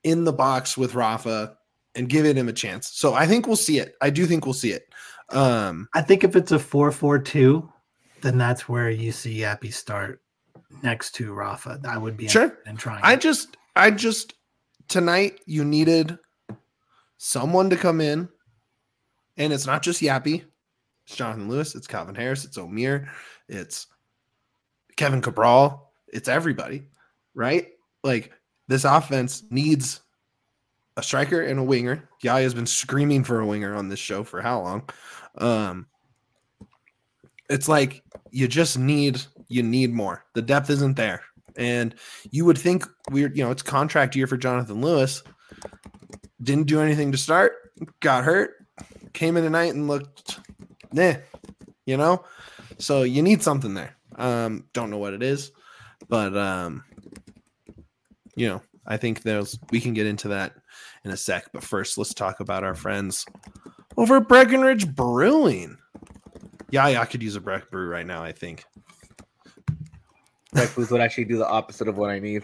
in the box with Rafa and giving him a chance. So I think we'll see it. I do think we'll see it. Um, I think if it's a four four two, then that's where you see Yappy start next to Rafa. I would be sure. in trying. I just, I just tonight you needed someone to come in, and it's not just Yappy. It's Jonathan Lewis. It's Calvin Harris. It's Omir. It's Kevin Cabral. It's everybody, right? Like this offense needs a striker and a winger. Yaya has been screaming for a winger on this show for how long? Um, it's like you just need you need more. The depth isn't there, and you would think we're you know it's contract year for Jonathan Lewis. Didn't do anything to start. Got hurt. Came in tonight and looked, nah, you know. So you need something there. Um, don't know what it is, but um, you know, I think there's we can get into that in a sec. But first, let's talk about our friends over at Breckenridge Brewing. Yeah, yeah, I could use a Breck brew right now, I think. Breck brews would actually do the opposite of what I need.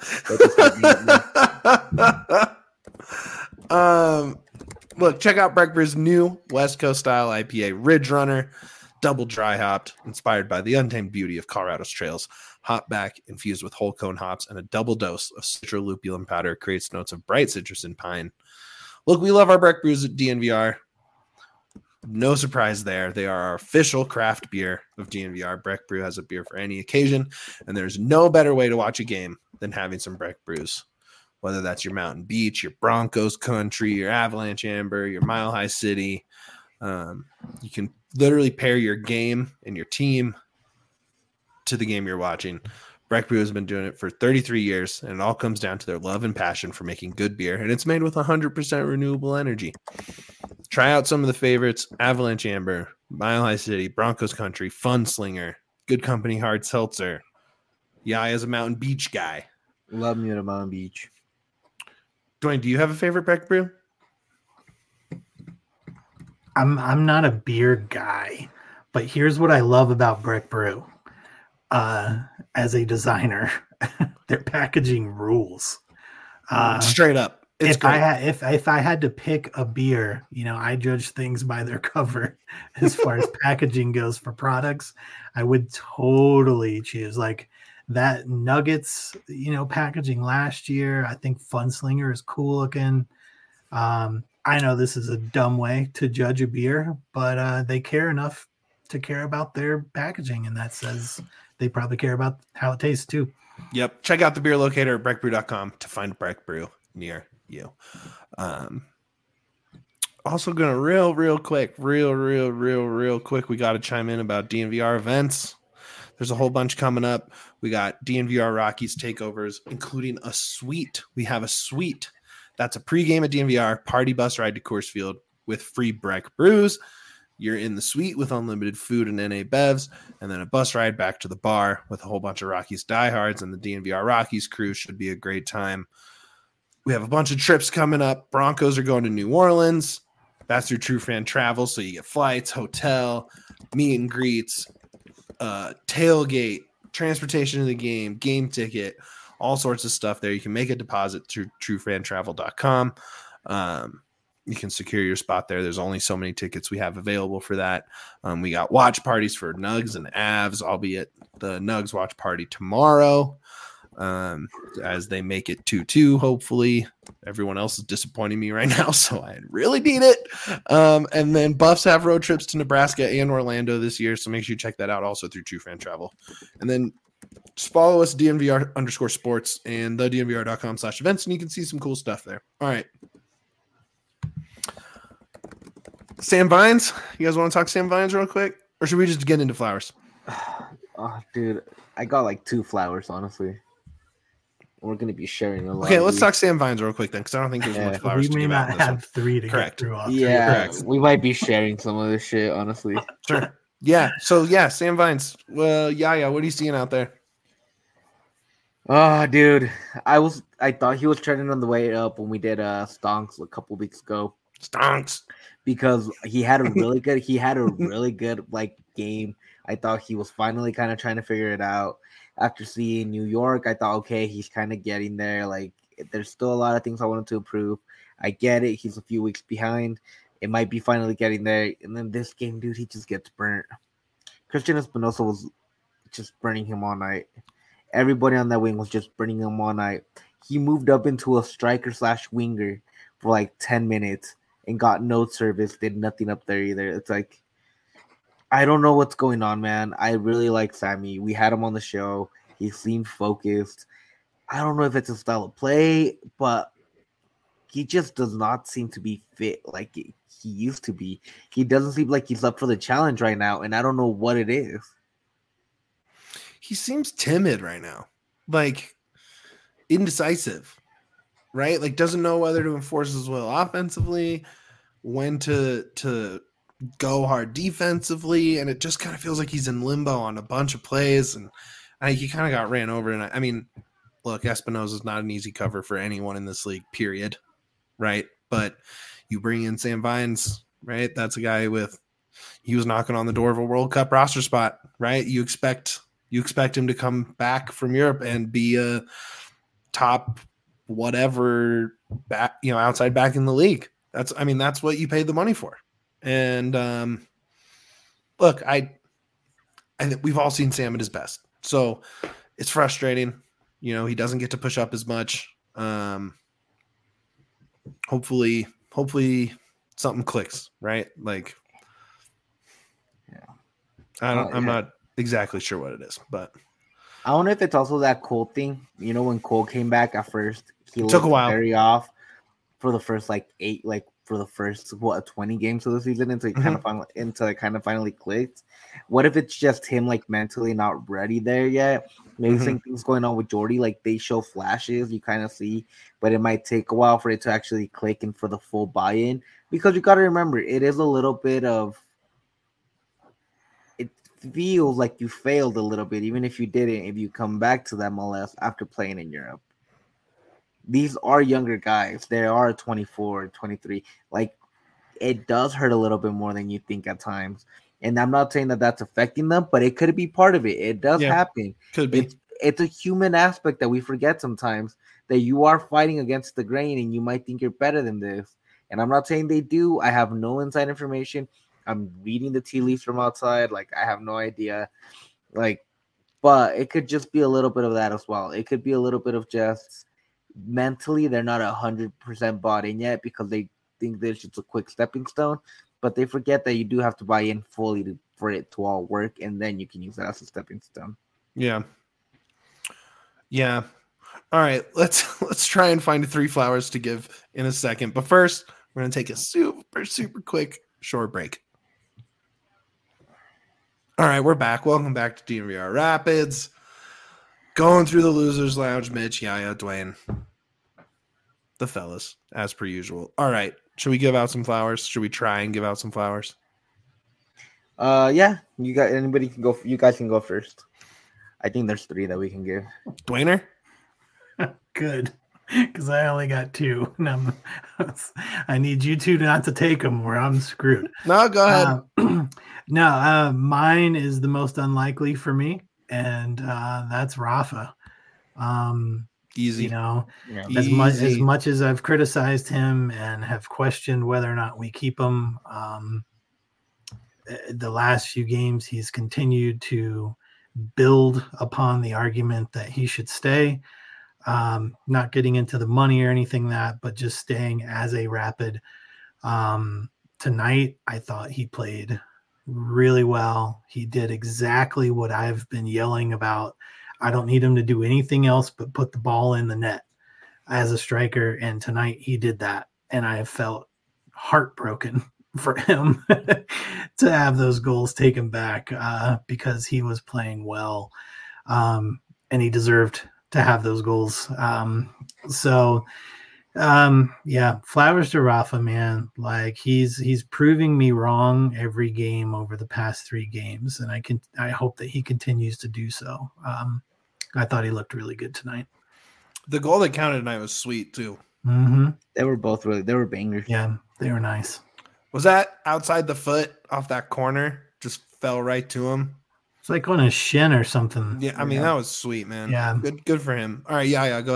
um, look, check out Breck Brew's new West Coast style I P A, Ridge Runner, double dry hopped, inspired by the untamed beauty of Colorado's trails. Hop back infused with whole cone hops and a double dose of citrolupulin powder creates notes of bright citrus and pine. Look, we love our Breck Brews at D N V R. No surprise there. They are our official craft beer of D N V R. Breck Brew has a beer for any occasion, and there's no better way to watch a game than having some Breck Brews. Whether that's your Mountain Beach, your Broncos country, your Avalanche Amber, your Mile High City, um, you can literally pair your game and your team to the game you're watching. Breck Brew has been doing it for thirty-three years, and it all comes down to their love and passion for making good beer, and it's made with one hundred percent renewable energy. Try out some of the favorites: Avalanche Amber, Mile High City, Broncos Country, Fun Slinger, Good Company Hard Seltzer. Yaya is a Mountain Beach guy. Love me at a Mountain Beach. Dwayne, do you have a favorite Breck Brew? I'm I'm not a beer guy, but here's what I love about Breck Brew. Uh, as a designer, their packaging rules. Uh, Straight up, it's if great. I had if if I had to pick a beer, you know, I judge things by their cover as far as packaging goes for products. I would totally choose like that Nuggets, you know, packaging last year. I think Funslinger is cool looking. Um, I know this is a dumb way to judge a beer, but uh, they care enough to care about their packaging, and that says they probably care about how it tastes too. Yep. Check out the beer locator at breck brew dot com to find Breck Brew near you. Um, also going to real, real quick, real, real, real, real quick. We got to chime in about D N V R events. There's a whole bunch coming up. We got D N V R Rockies takeovers, including a suite. We have a suite. That's a pregame at D N V R, party bus ride to Coors Field with free Breck brews. You're in the suite with unlimited food and N A Bevs, and then a bus ride back to the bar with a whole bunch of Rockies diehards, and the D N V R Rockies crew should be a great time. We have a bunch of trips coming up. Broncos are going to New Orleans. That's through True Fan Travel, so you get flights, hotel, meet and greets, uh, tailgate, transportation to the game, game ticket, all sorts of stuff there. You can make a deposit through true fan travel dot com. Um, you can secure your spot there. There's only so many tickets we have available for that. Um, we got watch parties for Nugs and Avs. I'll be at the Nugs watch party tomorrow um, as they make it two two, hopefully. Everyone else is disappointing me right now, so I really need it. Um, and then Buffs have road trips to Nebraska and Orlando this year, so make sure you check that out also through True Fan Travel. And then just follow us, D N V R underscore sports and the D N V R dot com slash events, and you can see some cool stuff there. All right. Sam Vines, you guys want to talk Sam Vines real quick? Or should we just get into flowers? Oh, dude, I got like two flowers, honestly. We're going to be sharing a lot. Okay, let's talk Sam Vines real quick then, because I don't think there's Yeah. much flowers We to may give out. not in this have one. three to Correct. get through all. Yeah, Correct. we might be sharing some of this shit, honestly. Sure. Yeah, so yeah, Sam Vines. Well, yeah, yeah, what are you seeing out there? Oh, dude, I was I thought he was trending on the way up when we did uh Stonks a couple weeks ago Stonks. because he had a really good he had a really good like game. I thought he was finally kind of trying to figure it out. After seeing New York, I thought, okay, he's kind of getting there. Like There's still a lot of things I want him to improve. I get it. He's a few weeks behind. It might be finally getting there. And then this game, dude, he just gets burnt. Christian Espinosa was just burning him all night. Everybody on that wing was just burning him all night. He moved up into a striker slash winger for like ten minutes and got no service, did nothing up there either. It's like, I don't know what's going on, man. I really like Sammy. We had him on the show. He seemed focused. I don't know if it's a style of play, but he just does not seem to be fit like he used to be. He doesn't seem like he's up for the challenge right now, and I don't know what it is. He seems timid right now, like indecisive, right? Like doesn't know whether to enforce his will offensively, when to to go hard defensively, and it just kind of feels like he's in limbo on a bunch of plays, and I, he kind of got ran over. And I, I mean, look, Espinosa is not an easy cover for anyone in this league, period, right? But you bring in Sam Vines, right? That's a guy with he was knocking on the door of a World Cup roster spot, right? You expect you expect him to come back from Europe and be a top whatever back, you know, outside back in the league. That's I mean, that's what you paid the money for. And um, look, I I think we've all seen Sam at his best. So it's frustrating. You know, he doesn't get to push up as much. Um, hopefully, hopefully something clicks, right? Like, yeah, I don't, uh, I'm yeah. not exactly sure what it is, but I don't know if it's also that Cole thing. You know, when Cole came back at first, he It took looked a while. very off for the first like eight, like for the first what twenty games of the season until he Mhm. kind of finally until it kind of finally clicked. What if it's just him like mentally not ready there yet? Maybe Mhm. same things going on with Jordy. Like they show flashes, you kind of see, but it might take a while for it to actually click and for the full buy-in. Because you got to remember, it is a little bit of. It feels like you failed a little bit, even if you didn't. If you come back to the M L S after playing in Europe, these are younger guys. They are twenty-four, twenty-three. Like it does hurt a little bit more than you think at times. And I'm not saying that that's affecting them, but it could be part of it. It does Yeah, happen. could be. It's it's a human aspect that we forget sometimes, that you are fighting against the grain and you might think you're better than this. And I'm not saying they do. I have no inside information. I'm reading the tea leaves from outside. Like I have no idea. Like, but it could just be a little bit of that as well. It could be a little bit of just mentally they're not a hundred percent bought in yet because they think there's just a quick stepping stone, but they forget that you do have to buy in fully to, for it to all work, and then you can use that as a stepping stone. Yeah. Yeah. All right. Let's let's try and find three flowers to give in a second. But first, we're gonna take a super, super quick short break. All right, we're back. Welcome back to D N V R Rapids. Going through the losers lounge, Mitch, Yaya, Dwayne. The fellas, as per usual. All right. Should we give out some flowers? Should we try and give out some flowers? Uh, yeah, you got anybody can go. You guys can go first. I think there's three that we can give. Dwayner? Good, because I only got two. And I'm, I need you two not to take them, or I'm screwed. No, go ahead. Uh, no, uh, mine is the most unlikely for me, and uh, that's Rafa. Um, Easy. You know, Yeah. as much as Easy. much as I've criticized him and have questioned whether or not we keep him, um, the last few games he's continued to build upon the argument that he should stay. Um, not getting into the money or anything that, but just staying as a Rapid. Um, tonight, I thought he played really well. He did exactly what I've been yelling about. I don't need him to do anything else but put the ball in the net as a striker. And tonight he did that. And I have felt heartbroken for him to have those goals taken back uh, because he was playing well. Um, and he deserved to have those goals. Um, so, um, yeah, flowers to Rafa, man. Like he's he's proving me wrong every game over the past three games, and I can I hope that he continues to do so. Um, I thought he looked really good tonight. The goal that counted tonight was sweet too. Mm-hmm. They were both really. They were bangers. Yeah, they were nice. Was that outside the foot off that corner? Just fell right to him. It's like on his shin or something. Yeah, I mean Yeah. that was sweet, man. Yeah. Good good for him. All right, yeah, yeah, go ahead.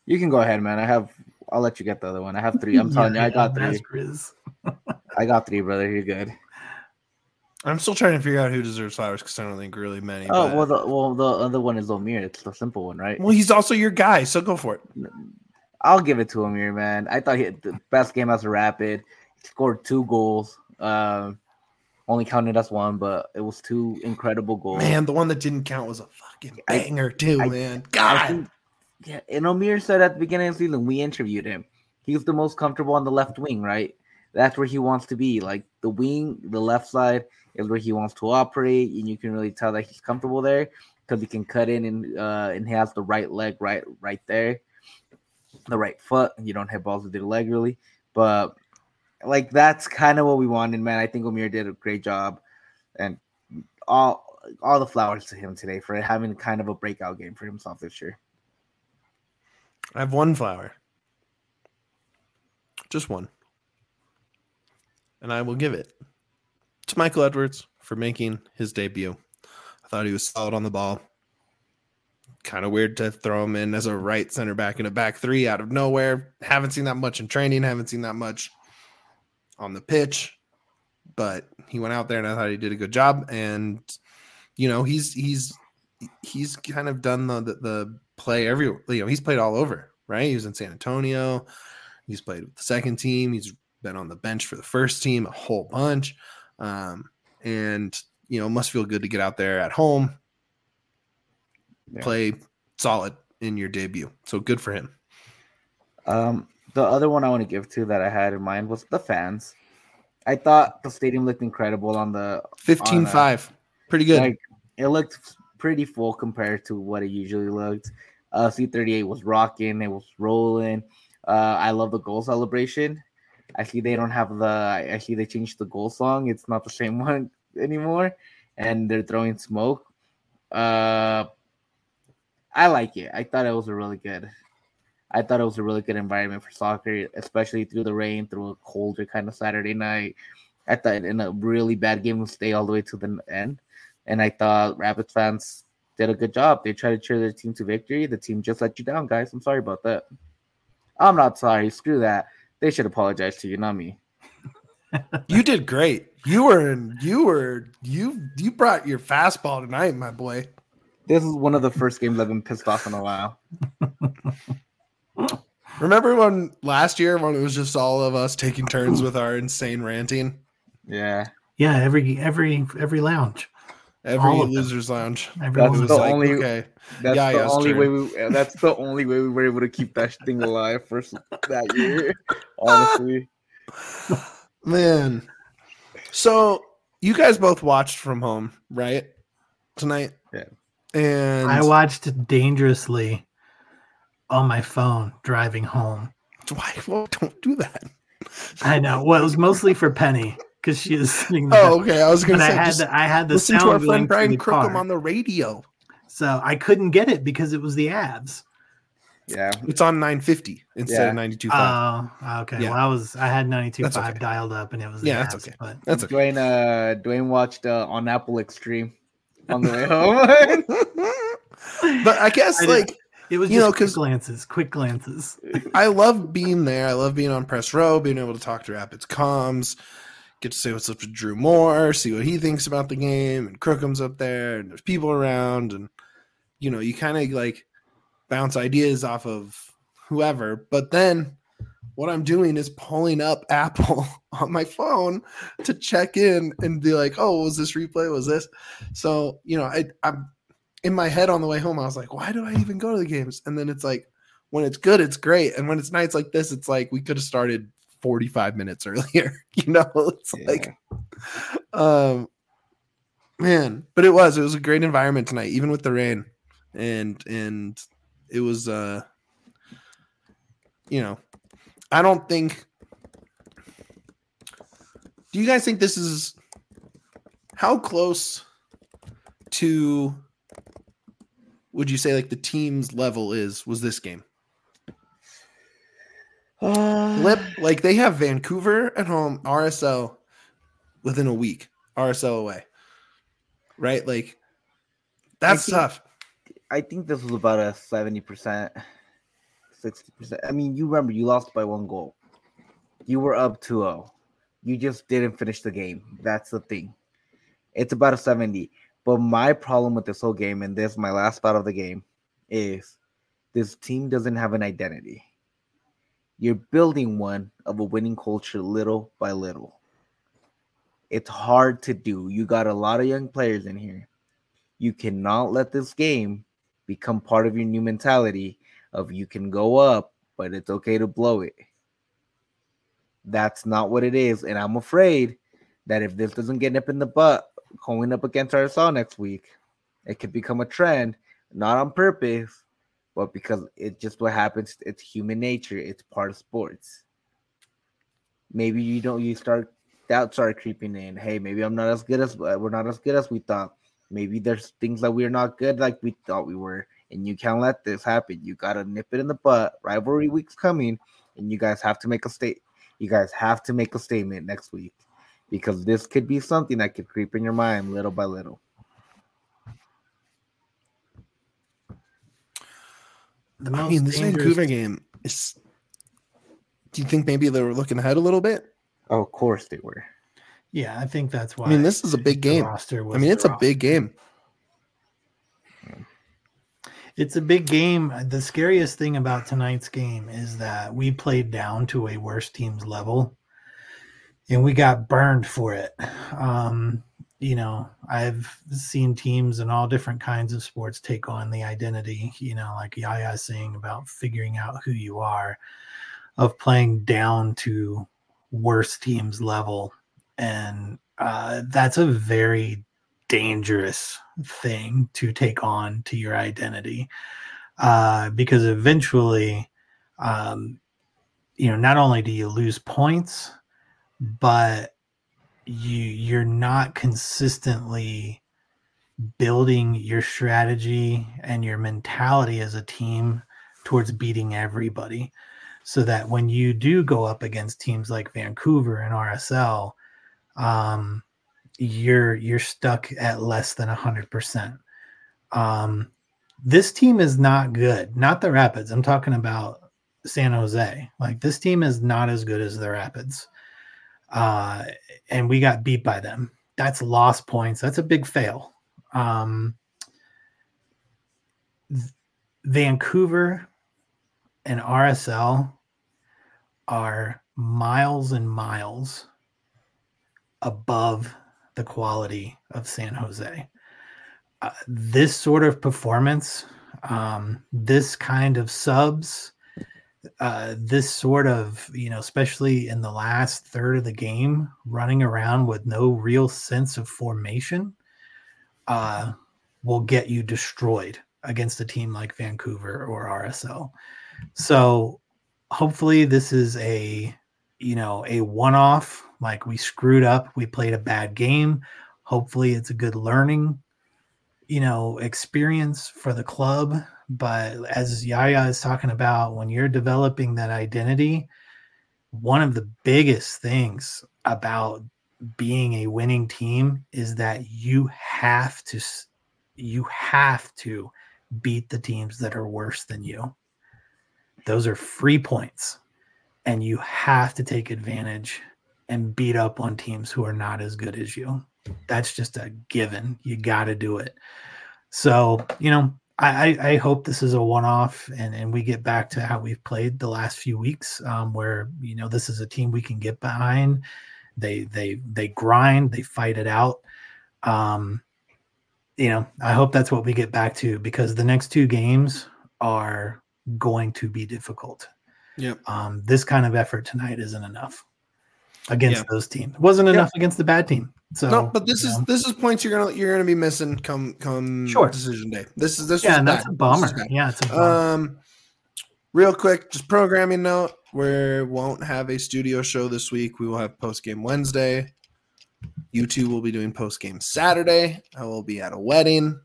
You can go ahead, man. I have. I'll let you get the other one. I have three. I'm telling Yeah, you, I got yeah, three. Grizz. I got three, brother. You're good. I'm still trying to figure out who deserves flowers because I don't think really many. Oh but... well, the well the other one is Omir. It's the simple one, right? Well, he's also your guy, so go for it. I'll give it to Omir, man. I thought he had the best game as a Rapid. He scored two goals. Um, only counted as one, but it was two incredible goals. Man, the one that didn't count was a fucking banger I, too, I, man. God. I think, yeah, and Omir said at the beginning of the season, we interviewed him. He's the most comfortable on the left wing, right? That's where he wants to be. Like the wing, the left side is where he wants to operate, and you can really tell that he's comfortable there because he can cut in and uh, and he has the right leg right right there, the right foot. You don't hit balls with your leg really, but like that's kind of what we wanted, man. I think Omir did a great job, and all all the flowers to him today for having kind of a breakout game for himself this year. I have one flower, just one. And I will give it to Michael Edwards for making his debut. I thought he was solid on the ball. Kind of weird to throw him in as a right center back in a back three out of nowhere. Haven't seen that much in training. Haven't seen that much on the pitch. But he went out there and I thought he did a good job. And, you know, he's he's he's kind of done the, the, the play every, you know, he's played all over, right? He was in San Antonio. He's played with the second team. He's been on the bench for the first team a whole bunch. Um, and, you know, must feel good to get out there at home, yeah. play solid in your debut. So good for him. Um, the other one I want to give to that I had in mind was the fans. I thought the stadium looked incredible on the fifteen five. Pretty good. Like, it looked pretty full compared to what it usually looked. Uh, C thirty-eight was rocking. It was rolling. Uh, I love the goal celebration. I see they don't have the. I see they changed the goal song. It's not the same one anymore, and they're throwing smoke. Uh, I like it. I thought it was a really good. I thought it was a really good environment for soccer, especially through the rain, through a colder kind of Saturday night. I thought in a really bad game to stay all the way to the end, and I thought Rapids fans did a good job. They tried to cheer their team to victory. The team just let you down, guys. I'm sorry about that. I'm not sorry. Screw that. They should apologize to you, not me. You did great. You were in, you were you you brought your fastball tonight, my boy. This is one of the first games I've been pissed off in a while. Remember when last year when it was just all of us taking turns with our insane ranting? Yeah. Yeah, every every every lounge. Every losers lounge. Everyone that's the like, only okay. That's yeah, the yeah, only true. way we that's the only way we were able to keep that thing alive for that year. Honestly. Man. So you guys both watched from home, right? Tonight? Yeah. And I watched dangerously on my phone driving home. Why? Well, don't do that. I know. Well, it was mostly for Penny because she was sitting there. Oh, okay. I was going to say, I had the, I had the listen sound to our friend Brian Crookham Crookham on the radio. So I couldn't get it because it was the ads. Yeah, it's on nine fifty instead yeah. of ninety-two point five. Oh, okay. Yeah. Well, I was I had ninety-two point five okay. dialed up, and it was yeah, ads, that's okay. But that's okay. Dwayne, uh, Dwayne watched uh, on Apple Extreme on the way home. But I guess I like it was you just know quick glances, quick glances. I love being there. I love being on press row, being able to talk to Rapids comms, get to say what's up to Drew Moore, see what he thinks about the game, and Crookham's up there, and there's people around, and you know you kind of like bounce ideas off of whoever. But then what I'm doing is pulling up Apple on my phone to check in and be like, oh, was this replay? Was this? So, you know, I, I'm in my head on the way home. I was like, why do I even go to the games? And then it's like, when it's good, it's great. And when it's nights like this, it's like, we could have started forty-five minutes earlier, you know, it's yeah. like, um, man, but it was, it was a great environment tonight, even with the rain. And, and it was, uh, you know, I don't think. Do you guys think this is how close to would you say like the team's level is was this game? Uh, Lip, like they have Vancouver at home, R S L within a week, R S L away. Right? Like that's I think, tough. I think this was about a seventy percent sixty percent. I mean, you remember you lost by one goal. You were up two oh. You just didn't finish the game. That's the thing. It's about a seventy. But my problem with this whole game, and this is my last thought of the game, is this team doesn't have an identity. You're building one of a winning culture little by little. It's hard to do. You got a lot of young players in here. You cannot let this game become part of your new mentality of you can go up, but it's okay to blow it. That's not what it is. And I'm afraid that if this doesn't get nip in the butt going up against R S L next week, it could become a trend, not on purpose, but because it's just what happens. It's human nature. It's part of sports. Maybe you don't, you start, doubt start creeping in. Hey, maybe I'm not as good as, we're not as good as we thought. Maybe there's things that we're not good like we thought we were. And you can't let this happen. You got to nip it in the butt. Rivalry week's coming. And you guys have to make a state. You guys have to make a statement next week. Because this could be something that could creep in your mind little by little. The most I mean, this Vancouver game is. Do you think maybe they were looking ahead a little bit? Oh, of course they were. Yeah, I think that's why. I mean, this is a big game. I mean, it's a big game. It's a big game. The scariest thing about tonight's game is that we played down to a worse team's level, and we got burned for it. Um, you know, I've seen teams in all different kinds of sports take on the identity, you know, like Yaya saying about figuring out who you are, of playing down to worse teams' level. And uh, that's a very dangerous thing to take on to your identity, uh, because eventually, um, you know, not only do you lose points, but you you're not consistently building your strategy and your mentality as a team towards beating everybody, so that when you do go up against teams like Vancouver and R S L, um, you're you're stuck at less than one hundred percent. Um, this team is not good. Not the Rapids. I'm talking about San Jose. Like, this team is not as good as the Rapids. Uh, and we got beat by them. That's lost points. That's a big fail. Um, Vancouver and R S L are miles and miles above the quality of San Jose. Uh, this sort of performance, um, this kind of subs, uh, this sort of, you know, especially in the last third of the game, running around with no real sense of formation, uh, will get you destroyed against a team like Vancouver or R S L. So hopefully this is a, you know, a one-off. Like, we screwed up, we played a bad game. Hopefully it's a good learning, you know, experience for the club. But as Yaya is talking about, when you're developing that identity, one of the biggest things about being a winning team is that you have to, you have to beat the teams that are worse than you. Those are free points, and you have to take advantage and beat up on teams who are not as good as you. That's just a given. You got to do it. So, you know, I, I hope this is a one-off, and, and we get back to how we've played the last few weeks, um, where, you know, this is a team we can get behind. They, they, they grind, they fight it out. Um, you know, I hope that's what we get back to, because the next two games are going to be difficult. Yep. Um, this kind of effort tonight isn't enough against yep. those teams. It wasn't enough yep. against the bad team. So no, but this is know. this is points you're gonna you're gonna be missing come come sure. decision day. This is this yeah, was and bad. that's a bummer. Yeah, it's a bummer. Um, real quick, just programming note: we won't have a studio show this week. We will have post game Wednesday. You two will be doing post game Saturday. I will be at a wedding.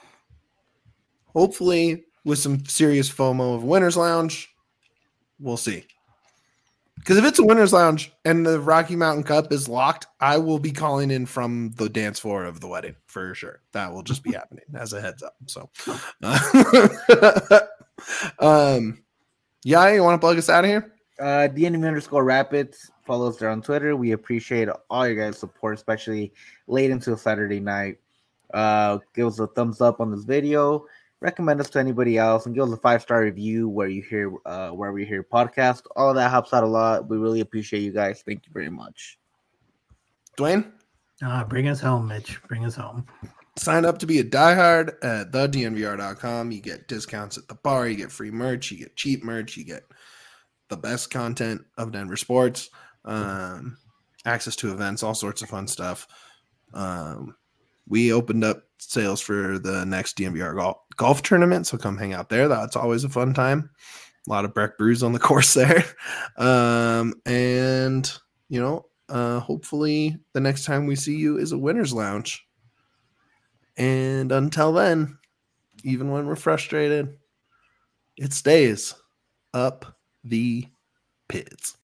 Hopefully, with some serious FOMO of Winners Lounge. We'll see. Because if it's a Winners Lounge and the Rocky Mountain Cup is locked, I will be calling in from the dance floor of the wedding for sure. That will just be happening as a heads up. So, uh, um, Yeah, you want to plug us out of here? Uh, D N M underscore Rapids. Follow us there on Twitter. We appreciate all your guys' support, especially late into a Saturday night. Uh, give us a thumbs up on this video. Recommend us to anybody else, and give us a five star review where you hear uh where we hear podcast. All of that helps out a lot. We really appreciate you guys. Thank you very much. Dwayne? Uh, bring us home, Mitch. Bring us home. Sign up to be a diehard at the D N V R dot com. You get discounts at the bar. You get free merch. You get cheap merch. You get the best content of Denver sports, um, access to events, all sorts of fun stuff. Um, we opened up sales for the next D N V R golf, golf tournament, so come hang out there. That's always a fun time. A lot of Breck brews on the course there. Um, and, you know, uh, hopefully the next time we see you is a winner's lounge. And until then, even when we're frustrated, it stays up the pits.